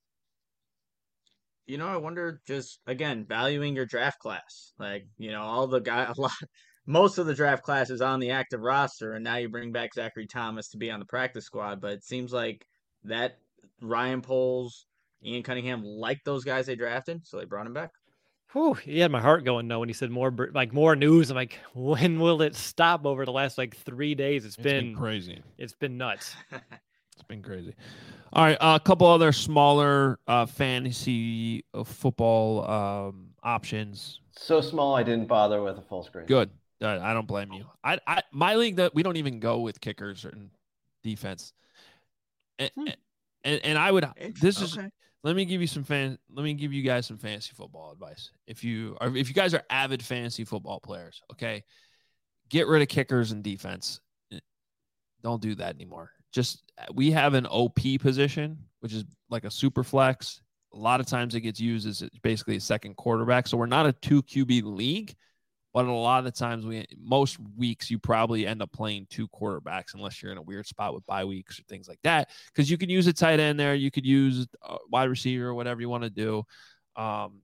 Speaker 2: You know, I wonder just, again, valuing your draft class. Like, you know, all the guy, a lot, most of the draft class is on the active roster, and now you bring back Zachary Thomas to be on the practice squad. But it seems like that Ryan Poles, Ian Cunningham liked those guys they drafted, so they brought him back.
Speaker 3: Whew, he had my heart going though when he said more, like more news. I'm like, when will it stop? Over the last like three days, it's,
Speaker 1: it's
Speaker 3: been,
Speaker 1: been crazy.
Speaker 3: It's been nuts.
Speaker 1: It's been crazy. All right, uh, a couple other smaller uh, fantasy football um, options.
Speaker 4: So small, I didn't bother with a full screen.
Speaker 1: Good. Uh, I don't blame you. I, I, my league that we don't even go with kickers or defense. And, hmm. and, and I would. This is. Okay. Let me give you some fan. Let me give you guys some fantasy football advice. If you are, if you guys are avid fantasy football players, okay, get rid of kickers and defense. Don't do that anymore. Just we have an O P position, which is like a super flex. A lot of times it gets used as basically a second quarterback. So we're not a two Q B league, but a lot of the times we, most weeks you probably end up playing two quarterbacks unless you're in a weird spot with bye weeks or things like that. Because you could use a tight end there, you could use a wide receiver or whatever you want to do, um,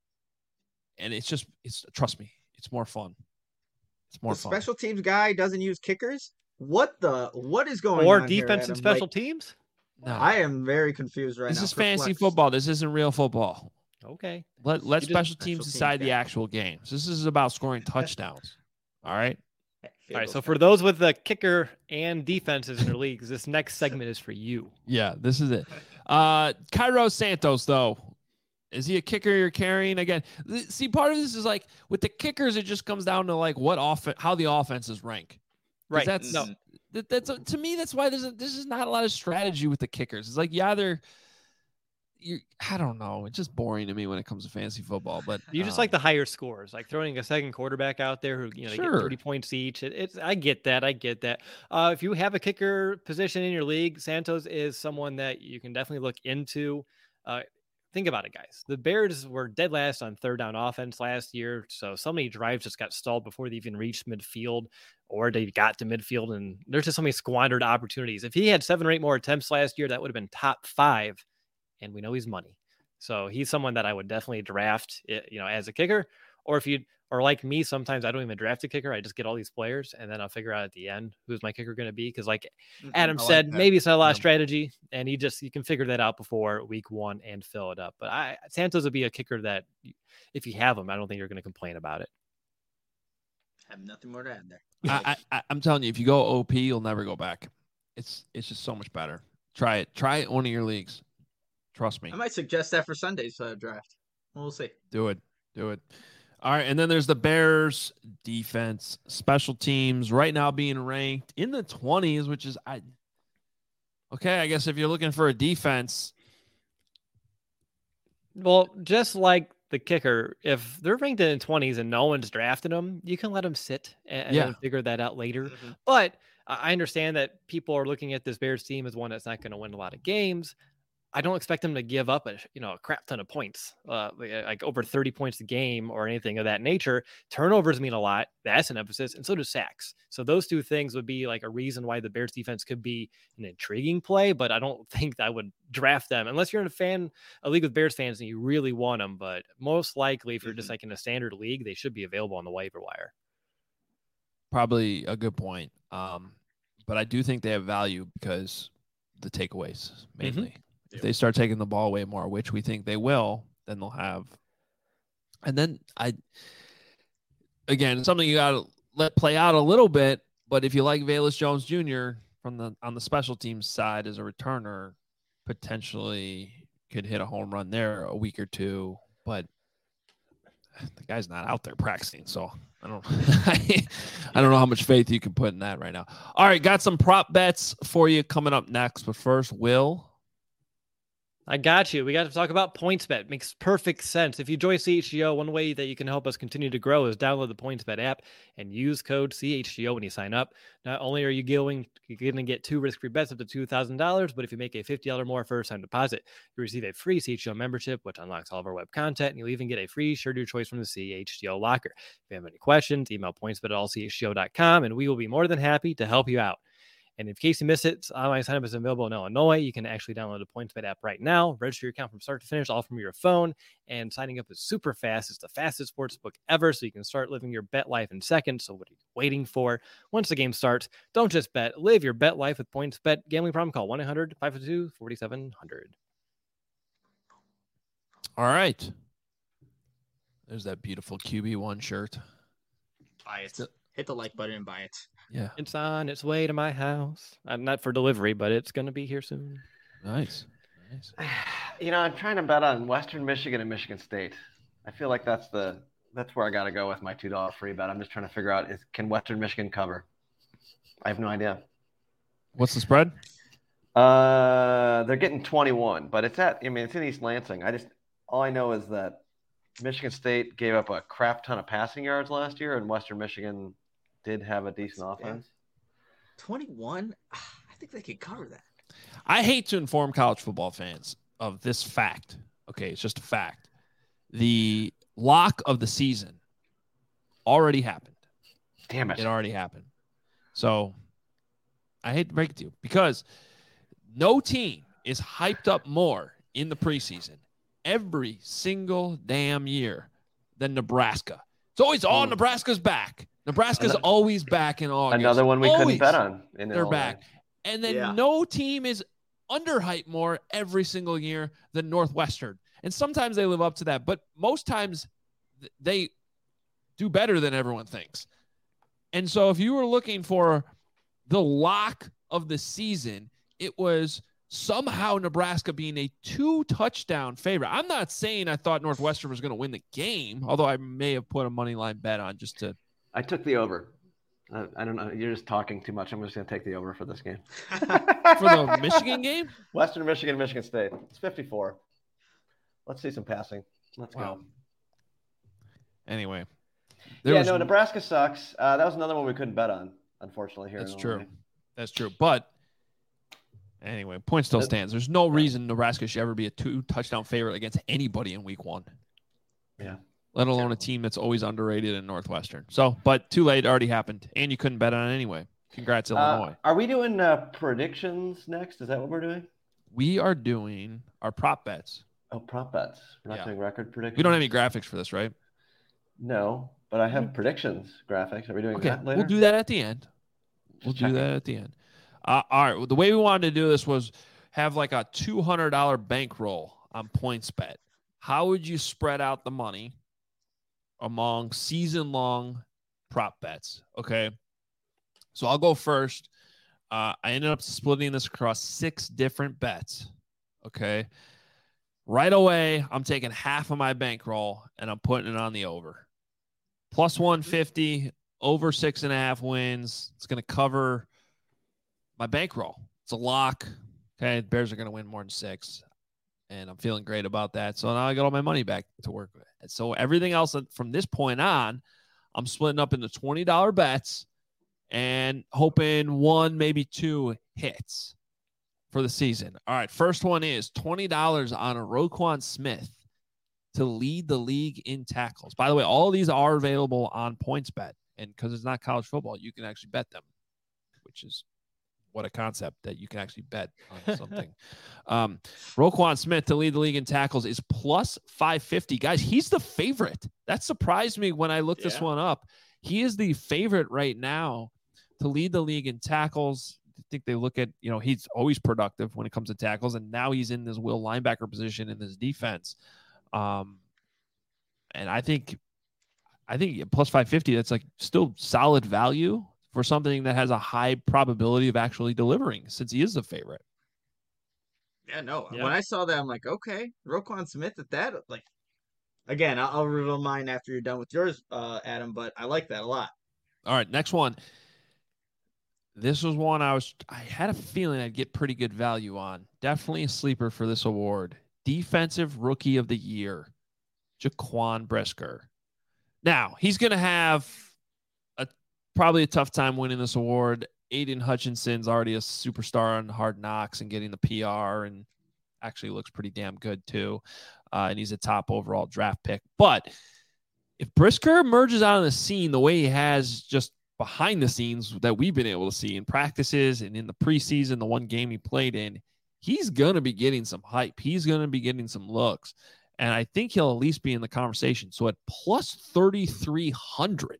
Speaker 1: and it's just it's trust me, it's more fun. It's more
Speaker 2: the
Speaker 1: fun.
Speaker 2: Special teams guy doesn't use kickers. What the? What is going
Speaker 3: or
Speaker 2: on?
Speaker 3: Or defense
Speaker 2: here,
Speaker 3: and special
Speaker 2: like,
Speaker 3: teams?
Speaker 2: No. I am very confused right
Speaker 1: this
Speaker 2: now.
Speaker 1: This is fantasy flex. football. This isn't real football.
Speaker 3: Okay.
Speaker 1: Let let special teams decide the actual games. This is about scoring touchdowns. All right.
Speaker 3: All right. So for those with the kicker and defenses in their leagues, this next segment is for you.
Speaker 1: Yeah, this is it. Uh, Cairo Santos, though. Is he a kicker you're carrying again? See, part of this is like with the kickers, it just comes down to like what off how the offenses rank.
Speaker 3: Right.
Speaker 1: That's
Speaker 3: no.
Speaker 1: that, that's to me. That's why there's a, this is not a lot of strategy with the kickers. It's like you either you I don't know. It's just boring to me when it comes to fantasy football. But
Speaker 3: you just
Speaker 1: um,
Speaker 3: like the higher scores, like throwing a second quarterback out there who you know
Speaker 1: sure.
Speaker 3: they get thirty points each. It, it's I get that. I get that. Uh, if you have a kicker position in your league, Santos is someone that you can definitely look into. Uh, think about it, guys. The Bears were dead last on third down offense last year. So so many drives just got stalled before they even reached midfield, or they got to midfield, and there's just so many squandered opportunities. If he had seven or eight more attempts last year, that would have been top five, and we know he's money. So he's someone that I would definitely draft, you know, as a kicker. Or if you, or like me, sometimes I don't even draft a kicker. I just get all these players, and then I'll figure out at the end who's my kicker going to be. Because like
Speaker 2: Mhm.
Speaker 3: Adam
Speaker 1: I like
Speaker 3: said,
Speaker 1: that.
Speaker 3: maybe it's not a lot of
Speaker 1: Yeah.
Speaker 3: strategy, and you just you can figure that out before week one and fill it up. But I Santos would be a kicker that if you have him, I don't think you're going to complain about it.
Speaker 2: Have nothing more to add there.
Speaker 1: I, I, I'm telling you, if you go O P, you'll never go back. It's it's just so much better. Try it. Try it in one of your leagues. Trust me.
Speaker 2: I might suggest that for Sunday's uh, draft. We'll see.
Speaker 1: Do it. Do it. All right. And then there's the Bears defense, special teams right now being ranked in the twenties, which is I. Okay, I guess if you're looking for a defense,
Speaker 3: Well, just like the kicker, if they're ranked in the twenties and no one's drafted them, you can let them sit and, and
Speaker 1: Yeah.
Speaker 3: then figure that out later.
Speaker 2: Mhm.
Speaker 3: But I I understand that people are looking at this Bears team as one that's not going to win a lot of games. I don't expect them to give up a you know a crap ton of points, uh, like like over thirty points a game or anything of that nature. Turnovers mean a lot. That's an emphasis, and so do sacks. So those two things would be like a reason why the Bears defense could be an intriguing play. But I don't think I would draft them unless you're in a fan a league with Bears fans and you really want them. But most likely, if you're just
Speaker 2: Mhm.
Speaker 3: like in a standard league, they should be available on the waiver wire.
Speaker 1: probably a good point. Um, but I do think they have value because the takeaways mainly. If they start taking the ball away more, which we think they will, then they'll have. And then I, again, something you got to let play out a little bit. But if you like Velus Jones Junior from the on the special teams side as a returner, potentially could hit a home run there a week or two. But the guy's not out there practicing, so I don't I don't know how much faith you can put in that right now. All right, got some prop bets for you coming up next, but first, Will.
Speaker 3: I got you. We got to talk about PointsBet. Makes perfect sense. If you join C H G O, one way that you can help us continue to grow is download the PointsBet app and use code C H G O when you sign up. Not only are you going, you're going to get two risk-free bets up to two thousand dollars, but if you make a fifty dollars more first-time deposit, you receive a free C H G O membership, which unlocks all of our web content, and you'll even get a free shirt of your choice from the C H G O locker. If you have any questions, email pointsbet at all c h g o dot com, and we will be more than happy to help you out. And in case you miss it, online sign up is available in Illinois. You can actually download the PointsBet app right now, register your account from start to finish, all from your phone. And signing up is super fast. It's the fastest sports book ever, so you can start living your bet life in seconds. So what are you waiting for? Once the game starts, don't just bet. Live your bet life with PointsBet. Gambling problem? Call one eight hundred five two two four seven zero zero.
Speaker 1: All right. There's that beautiful Q B one shirt.
Speaker 2: Buy it. Hit the like button and buy it.
Speaker 1: Yeah.
Speaker 3: It's on its way to my house. I'm not for delivery, but it's going to be here soon.
Speaker 1: Nice. Nice.
Speaker 4: You know, I'm trying to bet on Western Michigan and Michigan State. I feel like that's the that's where I got to go with my two dollar free bet. I'm just trying to figure out is can Western Michigan cover? I have no idea.
Speaker 1: What's the spread?
Speaker 4: Uh, they're getting twenty-one, but it's at I mean it's in East Lansing. I just all I know is that Michigan State gave up a crap ton of passing yards last year, and Western Michigan did have a decent offense.
Speaker 2: twenty-one? I think they could cover that.
Speaker 1: I hate to inform college football fans of this fact. Okay, it's just a fact. The lock of the season already happened.
Speaker 4: Damn it.
Speaker 1: It already happened. So I hate to break it to you because no team is hyped up more in the preseason every single damn year than Nebraska. It's always all
Speaker 4: Ooh.
Speaker 1: Nebraska's back. Nebraska's
Speaker 4: Another-
Speaker 1: always back in August.
Speaker 4: Another one we
Speaker 1: Always.
Speaker 4: couldn't bet on. In
Speaker 1: They're
Speaker 4: Illinois.
Speaker 1: back. And then
Speaker 2: Yeah.
Speaker 1: no team is underhyped more every single year than Northwestern. And sometimes they live up to that, but most times th- they do better than everyone thinks. And so if you were looking for the lock of the season, it was somehow Nebraska being a two touchdown favorite. I'm not saying I thought Northwestern was going to win the game, although I may have put a money line bet on just to.
Speaker 4: I took the over. I, I don't know. You're just talking too much. I'm just going to take the over for this game.
Speaker 1: For the Michigan game?
Speaker 4: Western Michigan, Michigan State. It's fifty-four. Let's see some passing. Let's
Speaker 1: Wow.
Speaker 4: go.
Speaker 1: Anyway. There
Speaker 4: Yeah,
Speaker 1: was-
Speaker 4: no, Nebraska sucks. Uh, that was another one we couldn't bet on, unfortunately. Here,
Speaker 1: That's
Speaker 4: in
Speaker 1: true.
Speaker 4: Illinois.
Speaker 1: That's true. But Anyway, point still stands. There's no reason Nebraska should ever be a two-touchdown favorite against anybody in week one.
Speaker 4: Yeah.
Speaker 1: Let alone a team that's always underrated in Northwestern. So, but too late. It already happened. And you couldn't bet on it anyway. Congrats, Illinois.
Speaker 4: Uh, are we doing uh, predictions next? Is that what we're doing?
Speaker 1: We are doing our prop bets.
Speaker 4: Oh, prop bets. We're not
Speaker 1: Yeah.
Speaker 4: doing record predictions?
Speaker 1: We don't have any graphics for this, right?
Speaker 4: No, but I have predictions graphics. Are we doing
Speaker 1: Okay,
Speaker 4: that later?
Speaker 1: we'll do that at the end. We'll
Speaker 4: Just
Speaker 1: do
Speaker 4: checking.
Speaker 1: that at the end. Uh, all right. Well, the way we wanted to do this was have like a two hundred dollars bankroll on PointsBet. How would you spread out the money among season-long prop bets? Okay. So I'll go first. Uh, I ended up splitting this across six different bets. Okay. Right away, I'm taking half of my bankroll and I'm putting it on the over. Plus one fifty, over six and a half wins. It's going to cover my bankroll. It's a lock. Okay. The Bears are going to win more than six. And I'm feeling great about that. So now I got all my money back to work with. And so everything else from this point on, I'm splitting up into twenty dollars bets and hoping one, maybe two hits for the season. All right. First one is twenty dollars on a Roquan Smith to lead the league in tackles. By the way, all of these are available on PointsBet. And because it's not college football, you can actually bet them, which is what a concept that you can actually bet on something. um, Roquan Smith to lead the league in tackles is plus five fifty. Guys, he's the favorite. That surprised me when I looked
Speaker 2: Yeah.
Speaker 1: this one up. He is the favorite right now to lead the league in tackles. I think they look at, you know, he's always productive when it comes to tackles, and now he's in this will linebacker position in this defense. Um, and I think, I think plus five fifty, that's like still solid value for something that has a high probability of actually delivering, since he is the favorite.
Speaker 2: Yeah, no.
Speaker 3: Yeah.
Speaker 2: When I saw that, I'm like, okay, Roquan Smith at that. Like, again, I'll, I'll reveal mine after you're done with yours, uh, Adam. But I like that a lot.
Speaker 1: All right, next one. This was one I was, I had a feeling I'd get pretty good value on. Definitely a sleeper for this award. Defensive Rookie of the Year, Jaquan Brisker. Now, he's going to have a probably a tough time winning this award. Aiden Hutchinson's already a superstar on Hard Knocks and getting the P R, and actually looks pretty damn good too. Uh, and he's a top overall draft pick. But if Brisker emerges out of the scene the way he has just behind the scenes that we've been able to see in practices and in the preseason, the one game he played in, he's going to be getting some hype. He's going to be getting some looks. And I think he'll at least be in the conversation. So at plus thirty-three hundred,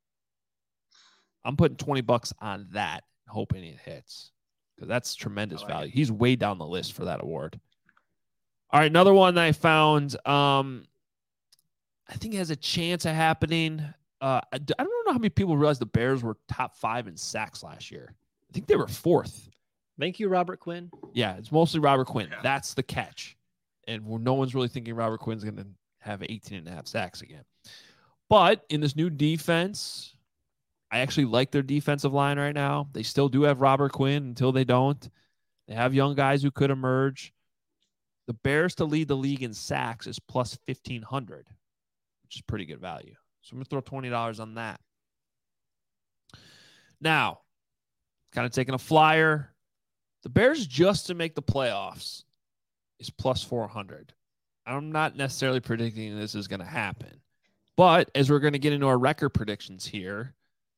Speaker 1: I'm putting twenty bucks on that, hoping it hits, because that's tremendous
Speaker 2: I like
Speaker 1: value.
Speaker 2: it.
Speaker 1: He's way down the list for that award. All right, another one that I found, um, I think has a chance of happening. Uh, I, d- I don't know how many people realize the Bears were top five in sacks last year. I think they were fourth.
Speaker 3: Thank you, Robert Quinn.
Speaker 1: Yeah, it's mostly Robert Quinn.
Speaker 2: Yeah.
Speaker 1: That's the catch. And we're, no one's really thinking Robert Quinn's going to have eighteen and a half sacks again. But in this new defense, I actually like their defensive line right now. They still do have Robert Quinn until they don't. They have young guys who could emerge. The Bears to lead the league in sacks is plus fifteen hundred, which is pretty good value. So I'm going to throw twenty dollars on that. Now, kind of taking a flyer. The Bears just to make the playoffs is plus four hundred. I'm not necessarily predicting this is going to happen. But as we're going to get into our record predictions here,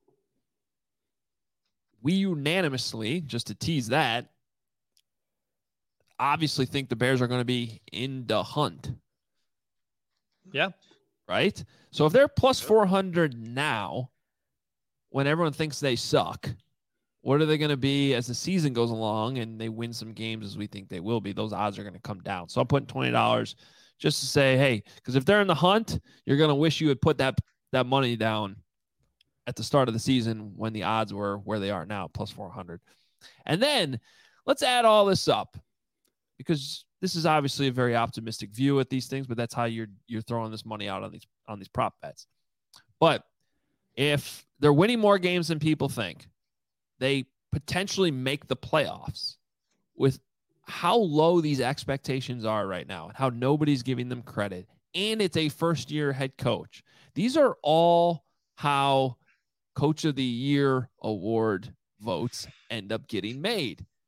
Speaker 1: we unanimously, just to tease that, obviously think the Bears are going to be in the hunt.
Speaker 3: Yeah.
Speaker 1: Right? So if they're plus four hundred now, when everyone thinks they suck, what are they going to be as the season goes along and they win some games as we think they will be? Those odds are going to come down. So I'm putting twenty dollars just to say, hey, because if they're in the hunt, you're going to wish you had put that, that money down at the start of the season when the odds were where they are now, plus four hundred. And then let's add all this up, because this is obviously a very optimistic view at these things, but that's how you're you're throwing this money out on these on these prop bets. But if they're winning more games than people think, they potentially make the playoffs with how low these expectations are right now and how nobody's giving them credit. And it's a first-year head coach. These are all how Coach of the Year award votes end up getting made.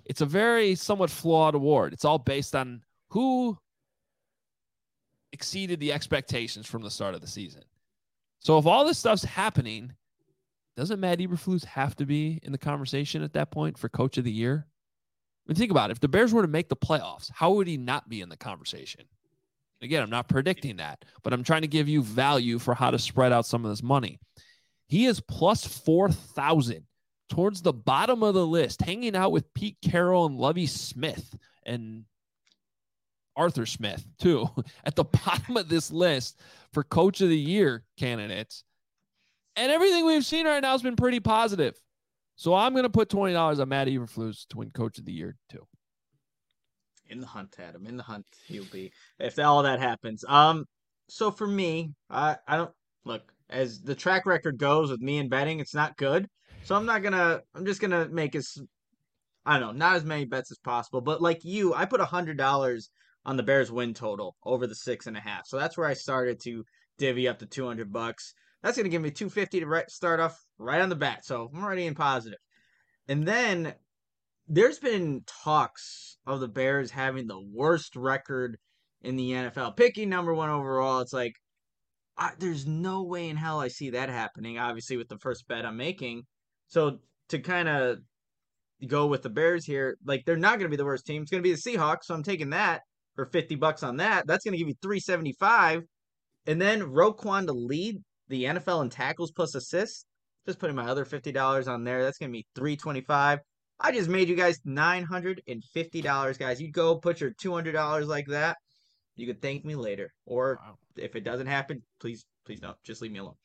Speaker 1: it's a very somewhat flawed award. It's all based on who exceeded the expectations from the start of the season. So if all this stuff's happening, doesn't Matt Eberflus have to be in the conversation at that point for Coach of the Year? I mean, think about it. If the Bears were to make the playoffs, how would he not be in the conversation? Again, I'm not predicting that, but I'm trying to give you value for how to spread out some of this money. He is plus four thousand towards the bottom of the list, hanging out with Pete Carroll and Lovie Smith and Arthur Smith, too, at the bottom of this list for Coach of the Year candidates. And everything we've seen right now has been pretty positive. So I'm going to put twenty dollars on Matt Eberflus to win Coach of the Year, too.
Speaker 2: In the hunt, Adam. In the hunt, he'll be if all that happens. Um, so for me, I I don't look as the track record goes with me and betting. It's not good. So I'm not gonna. I'm just gonna make as I don't know, not as many bets as possible. But like you, I put a hundred dollars on the Bears win total over the six and a half. So that's where I started to divvy up the two hundred bucks. That's gonna give me two fifty to right, start off right on the bat. So I'm already in positive. And then there's been talks of the Bears having the worst record in the N F L, picking number one overall. It's like, I, there's no way in hell I see that happening, obviously, with the first bet I'm making. So to kind of go with the Bears here, like, they're not going to be the worst team. It's going to be the Seahawks, so I'm taking that for fifty bucks on that. That's going to give you three seventy-five. And then Roquan to lead the N F L in tackles plus assists. Just putting my other fifty dollars on there. That's going to be three twenty-five. I just made you guys nine hundred fifty dollars, guys. You go put your two hundred dollars like that. You could thank me later. Or wow. If it doesn't happen, please, please don't. Just leave me alone.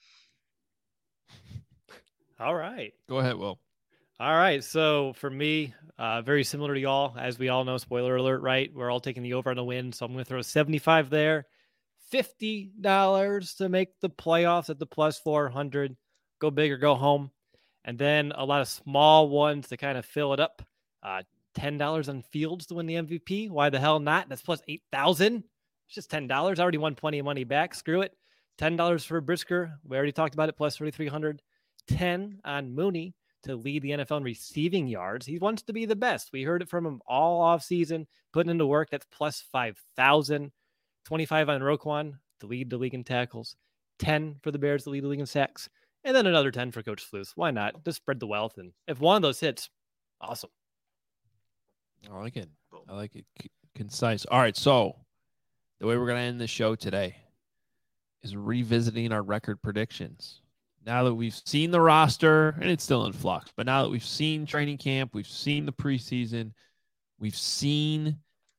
Speaker 3: All right.
Speaker 1: Go ahead, Will.
Speaker 3: All right. So for me, uh, very similar to y'all. As we all know, spoiler alert, right? We're all taking the over on the win. So I'm going to throw seventy-five there. fifty dollars to make the playoffs at the plus four hundred. Go big or go home. And then a lot of small ones to kind of fill it up. Uh, ten dollars on Fields to win the M V P. Why the hell not? That's plus eight thousand dollars. It's just ten dollars. I already won plenty of money back. Screw it. ten dollars for Brisker. We already talked about it. Plus thirty-three hundred. ten on Mooney to lead the N F L in receiving yards. He wants to be the best. We heard it from him all off season, putting into work. That's plus five thousand. twenty-five on Roquan to lead the league in tackles. ten for the Bears to lead the league in sacks. And then another ten for Coach Flus. Why not? Just spread the wealth. And if one of those hits, awesome.
Speaker 1: I like it. I like it. C- concise. All right. So the way we're going to end the show today is revisiting our record predictions. Now that we've seen the roster, and it's still in flux, but now that we've seen training camp, we've seen the preseason, we've seen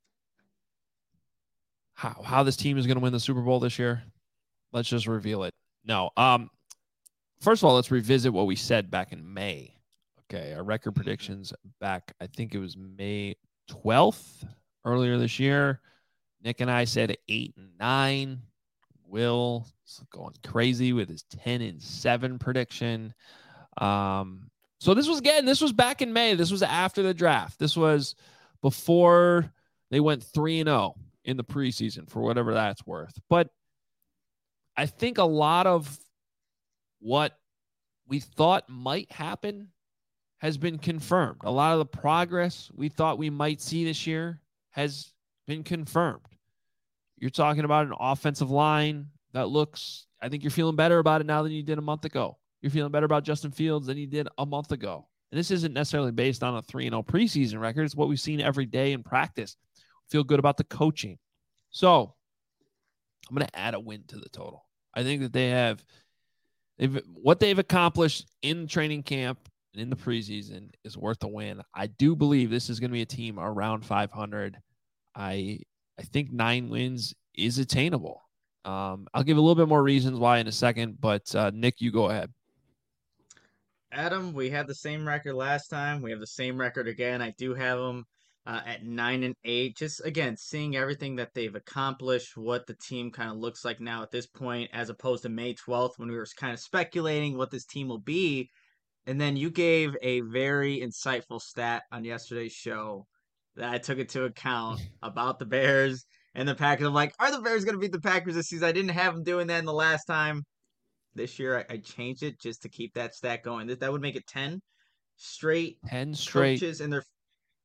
Speaker 1: how, how this team is going to win the Super Bowl this year, let's just reveal it. No. Um, First of all, let's revisit what we said back in May. Okay, our record predictions back, I think it was May twelfth, earlier this year. Nick and I said eight and nine. Will is going crazy with his ten and seven prediction. Um, so this was, again, this was back in May. This was after the draft. This was before they went three and oh in the preseason, for whatever that's worth. But I think a lot of what we thought might happen has been confirmed. A lot of the progress we thought we might see this year has been confirmed. You're talking about an offensive line that looks, I think you're feeling better about it now than you did a month ago. You're feeling better about Justin Fields than you did a month ago. And this isn't necessarily based on a three and oh preseason record. It's what we've seen every day in practice. Feel good about the coaching. So I'm going to add a win to the total. I think that they have They've, what they've accomplished in training camp and in the preseason is worth a win. I do believe this is going to be a team around five hundred. I I think nine wins is attainable. Um, I'll give a little bit more reasons why in a second, but uh, Nick, you go ahead.
Speaker 2: Adam, we had the same record last time. We have the same record again. I do have them uh, at nine and eight. Just again, seeing everything that they've accomplished, what the team kind of looks like now at this point, as opposed to May twelfth when we were kind of speculating what this team will be. And then you gave a very insightful stat on yesterday's show that I took into account about the Bears and the Packers. I'm like, are the Bears going to beat the Packers this season? I didn't have them doing that in the last time. This year, I, I changed it just to keep that stat going. That, that would make it ten straight,
Speaker 1: ten straight
Speaker 2: coaches in their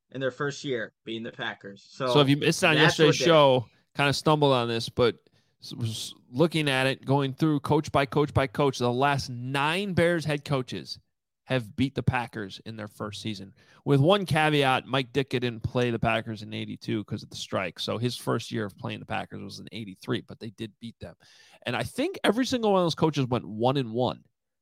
Speaker 2: in their first year beating the Packers. So,
Speaker 1: So if you missed on
Speaker 2: that's
Speaker 1: yesterday's
Speaker 2: what did it.
Speaker 1: show, kind of stumbled on this, but s- was looking at it, going through coach by coach by coach, the last nine Bears head coaches have beat the Packers in their first season. With one caveat, Mike Ditka didn't play the Packers in eighty-two because of the strike. So his first year of playing the Packers was in eighty-three, but they did beat them. And I think every single one of those coaches went one and one.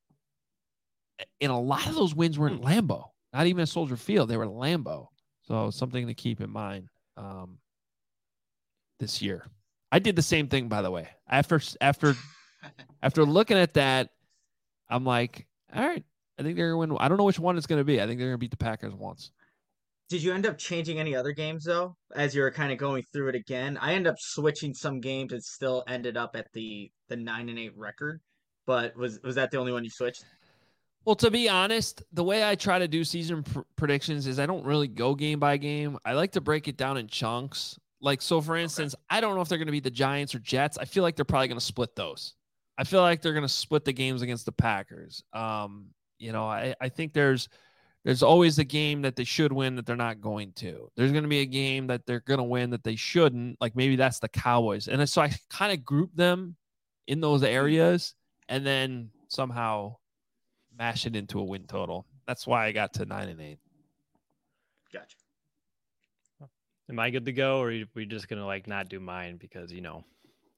Speaker 1: And a lot of those wins were in Lambeau, not even at Soldier Field. They were Lambeau. So something to keep in mind um, this year. I did the same thing, by the way. After after after looking at that, I'm like, all right, I think they're going to win. I don't know which one it's going to be. I think they're going to beat the Packers once.
Speaker 2: Did you end up changing any other games though, as you were kind of going through it again? I ended up switching some games and still ended up at the the nine and eight record. But was was that the only one you switched?
Speaker 1: Well, to be honest, the way I try to do season pr- predictions is I don't really go game by game. I like to break it down in chunks. Like, so for instance, okay. I don't know if they're going to beat the Giants or Jets. I feel like they're probably going to split those. I feel like they're going to split the games against the Packers. Um, you know, I, I think there's there's always a game that they should win that they're not going to. There's going to be a game that they're going to win that they shouldn't. Like maybe that's the Cowboys. And so I kind of group them in those areas and then somehow mash it into a win total. That's why I got to nine and eight.
Speaker 2: Gotcha.
Speaker 3: Am I good to go, or are we just gonna like not do mine because you know?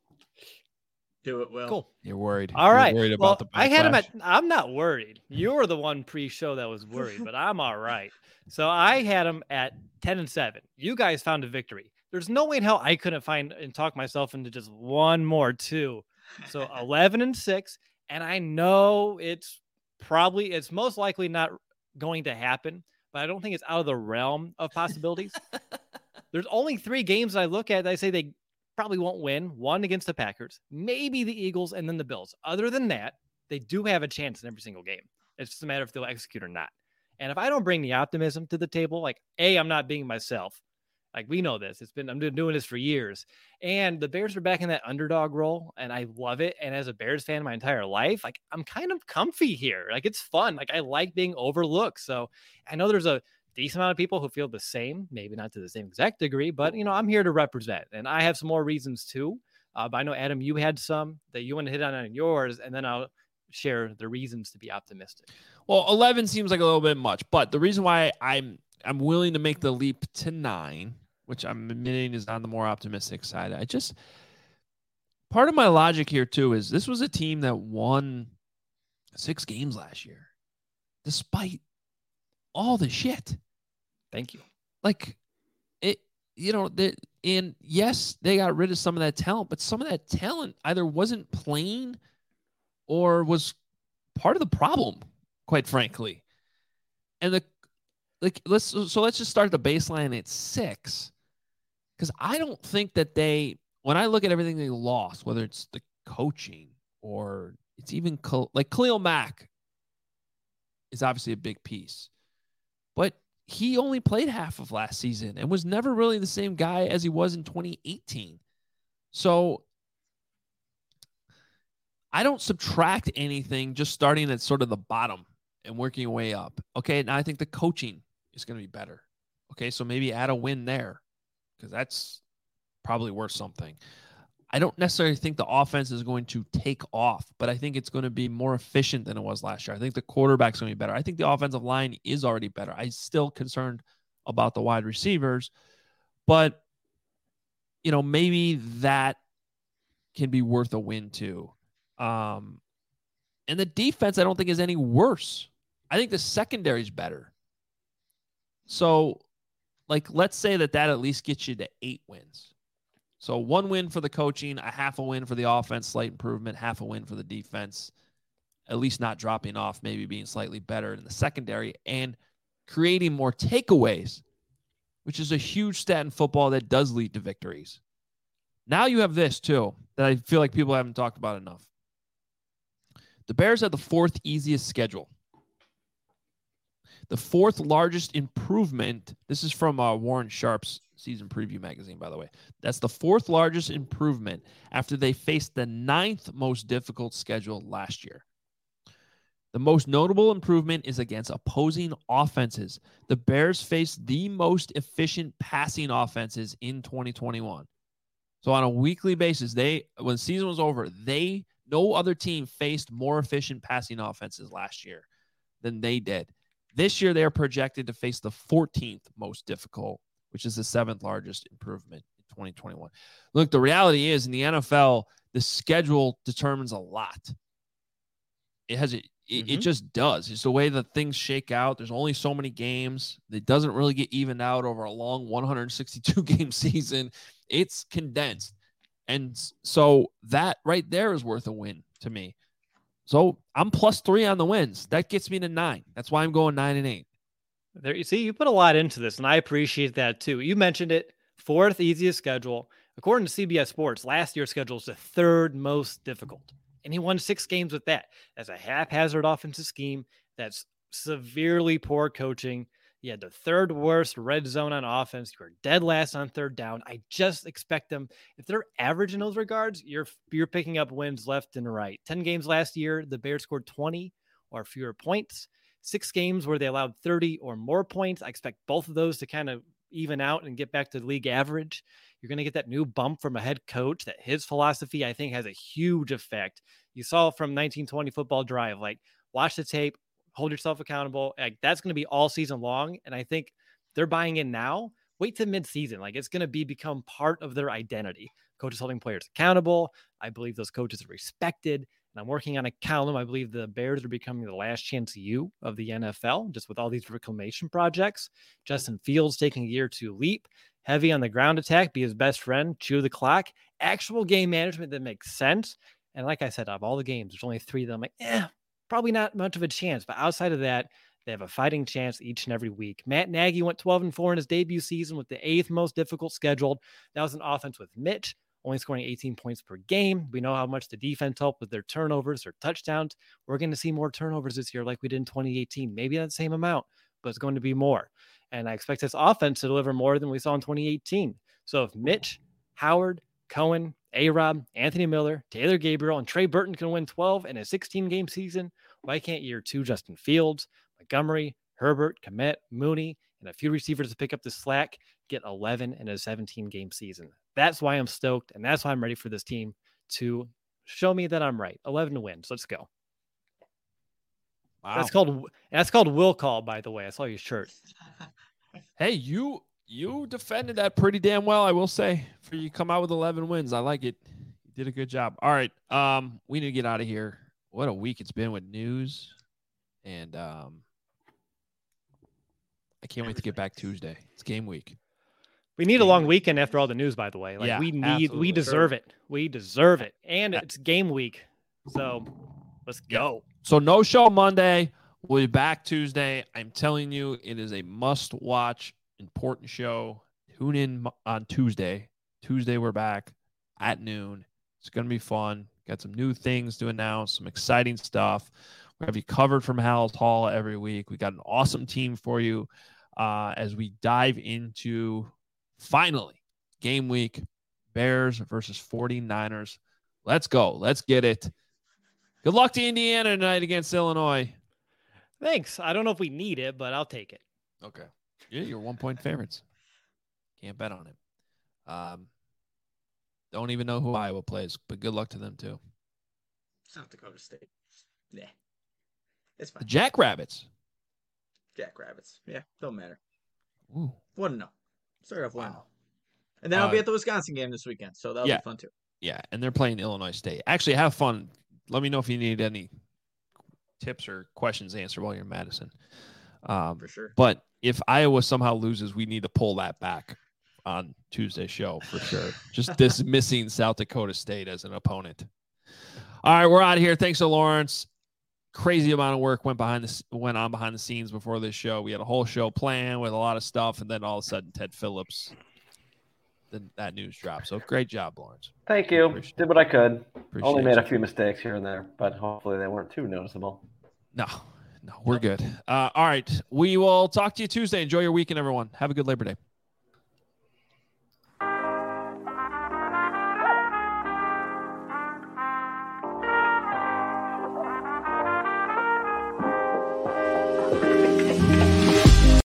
Speaker 2: Do it, Will.
Speaker 3: Cool.
Speaker 1: You're worried.
Speaker 3: All
Speaker 1: You're
Speaker 3: right.
Speaker 1: worried
Speaker 3: well,
Speaker 1: about the backlash.
Speaker 3: I had him at. I'm not worried. You were the one pre-show that was worried, but I'm all right. So I had him at ten and seven. You guys found a victory. There's no way in hell I couldn't find and talk myself into just one more too. So eleven and six, and I know it's probably it's most likely not going to happen, but I don't think it's out of the realm of possibilities. There's only three games I look at that I say they probably won't win. One against the Packers, maybe the Eagles, and then the Bills. Other than that, they do have a chance in every single game. It's just a matter if they'll execute or not. And if I don't bring the optimism to the table, like, A, I'm not being myself. Like, we know this. It's been, I'm doing this for years. And the Bears are back in that underdog role, and I love it. And as a Bears fan my entire life, like, I'm kind of comfy here. Like, it's fun. Like, I like being overlooked. So I know there's a decent amount of people who feel the same, maybe not to the same exact degree, but, you know, I'm here to represent. And I have some more reasons too. Uh, but I know, Adam, you had some that you want to hit on on yours, and then I'll share the reasons to be optimistic.
Speaker 1: Well, eleven seems like a little bit much, but the reason why I'm I'm willing to make the leap to nine, which I'm admitting is on the more optimistic side. I just, part of my logic here too is this was a team that won six games last year, despite all the shit.
Speaker 3: Thank you.
Speaker 1: Like it, you know, the, and yes, they got rid of some of that talent, but some of that talent either wasn't playing or was part of the problem, quite frankly. And the, like, let's, so let's just start the baseline at six. Because I don't think that they, when I look at everything they lost, whether it's the coaching or it's even like Khalil Mack is obviously a big piece, but he only played half of last season and was never really the same guy as he was in twenty eighteen. So I don't subtract anything, just starting at sort of the bottom and working your way up. Okay, now I think the coaching is going to be better. Okay, so maybe add a win there, because that's probably worth something. I don't necessarily think the offense is going to take off, but I think it's going to be more efficient than it was last year. I think the quarterback's going to be better. I think the offensive line is already better. I'm still concerned about the wide receivers, but, you know, maybe that can be worth a win too. Um, and the defense, I don't think is any worse. I think the secondary is better. So, like, let's say that that at least gets you to eight wins. So one win for the coaching, a half a win for the offense, slight improvement, half a win for the defense, at least not dropping off, maybe being slightly better in the secondary, and creating more takeaways, which is a huge stat in football that does lead to victories. Now you have this too, that I feel like people haven't talked about enough. The Bears have the fourth easiest schedule. The fourth largest improvement. This is from uh, Warren Sharp's season preview magazine, by the way. That's the fourth largest improvement after they faced the ninth most difficult schedule last year. The most notable improvement is against opposing offenses. The Bears faced the most efficient passing offenses in twenty twenty-one. So on a weekly basis, they when the season was over, they no other team faced more efficient passing offenses last year than they did. This year, they are projected to face the fourteenth most difficult, which is the seventh largest improvement in twenty twenty-one. Look, the reality is in the N F L, the schedule determines a lot. It has it, mm-hmm. it just does. It's the way that things shake out. There's only so many games. It doesn't really get evened out over a long one hundred sixty-two game season. It's condensed. And so that right there is worth a win to me. So I'm plus three on the wins. That gets me to nine. That's why I'm going nine and eight.
Speaker 3: There you see, you put a lot into this, and I appreciate that too. You mentioned it, fourth easiest schedule. According to C B S Sports, last year's schedule is the third most difficult. And he won six games with that. That's a haphazard offensive scheme. That's severely poor coaching. You had the third worst red zone on offense. You were dead last on third down. I just expect them, if they're average in those regards, you're you're picking up wins left and right. ten games last year, the Bears scored twenty or fewer points. Six games where they allowed thirty or more points. I expect both of those to kind of even out and get back to league average. You're going to get that new bump from a head coach that his philosophy, I think, has a huge effect. You saw from nineteen twenty Football Drive, like watch the tape, hold yourself accountable. Like that's going to be all season long. And I think they're buying in now. Wait till mid-season. Like it's going to be become part of their identity. Coaches holding players accountable. I believe those coaches are respected. And I'm working on a column. I believe the Bears are becoming the last chance U of the N F L, just with all these reclamation projects. Justin Fields taking a year to leap. Heavy on the ground attack, be his best friend, chew the clock. Actual game management that makes sense. And like I said, of all the games, there's only three that I'm like, eh, probably not much of a chance. But outside of that, they have a fighting chance each and every week. Matt Nagy went twelve and four in his debut season with the eighth most difficult scheduled. That was an offense with Mitch, only scoring eighteen points per game. We know how much the defense helped with their turnovers or touchdowns. We're going to see more turnovers this year like we did in twenty eighteen. Maybe not the same amount, but it's going to be more. And I expect this offense to deliver more than we saw in twenty eighteen. So if Mitch, Howard, Cohen, A-Rob, Anthony Miller, Taylor Gabriel, and Trey Burton can win twelve in a sixteen-game season, why can't year two Justin Fields, Montgomery, Herbert, Kmet, Mooney, and a few receivers to pick up the slack get eleven in a seventeen-game season? That's why I'm stoked, and that's why I'm ready for this team to show me that I'm right. eleven wins. Let's go.
Speaker 1: Wow.
Speaker 3: That's called that's called will call, by the way. I saw your shirt.
Speaker 1: Hey, you you defended that pretty damn well, I will say. For you come out with eleven wins, I like it. You did a good job. All right, um, we need to get out of here. What a week it's been with news, and um, I can't wait to get back Tuesday. It's game week.
Speaker 3: We need a long weekend after all the news, by the way. Like yeah, we need, absolutely. we deserve it. We deserve it, and it's game week, so let's go.
Speaker 1: So no show Monday. We'll be back Tuesday. I'm telling you, it is a must-watch, important show. Tune in on Tuesday. Tuesday, we're back at noon. It's going to be fun. Got some new things to announce, some exciting stuff. We have you covered from Hal's Hall every week. We got an awesome team for you uh, as we dive into, finally, game week, Bears versus forty-niners. Let's go. Let's get it. Good luck to Indiana tonight against Illinois.
Speaker 3: Thanks. I don't know if we need it, but I'll take it.
Speaker 1: Okay. Yeah, you're one-point favorites. Can't bet on it. Um, don't even know who Iowa plays, but good luck to them, too.
Speaker 2: South Dakota State. Yeah. It's fine.
Speaker 1: The Jackrabbits.
Speaker 2: Jackrabbits. Yeah, don't matter.
Speaker 1: Ooh.
Speaker 2: one to oh. Start off one. Wow. And then
Speaker 1: uh,
Speaker 2: I'll be at the Wisconsin game this weekend, so that'll
Speaker 1: yeah.
Speaker 2: be fun, too.
Speaker 1: Yeah, and they're playing Illinois State. Actually, have fun. Let me know if you need any tips or questions answered while you're in Madison. Um,
Speaker 2: for sure.
Speaker 1: But if Iowa somehow loses, we need to pull that back on Tuesday's show for sure. Just dismissing South Dakota State as an opponent. All right, we're out of here. Thanks to Lawrence. Crazy amount of work went behind the went on behind the scenes before this show. We had a whole show planned with a lot of stuff, and then all of a sudden, Ted Phillips, then that news dropped. So great job, Lawrence.
Speaker 4: Thank you.
Speaker 1: Appreciate
Speaker 4: Did what I could.
Speaker 1: Appreciate
Speaker 4: Only made
Speaker 1: you.
Speaker 4: a few mistakes here and there, but hopefully they weren't too noticeable.
Speaker 1: No, no, we're good. Uh, all right, we will talk to you Tuesday. Enjoy your weekend, everyone. Have a good Labor Day.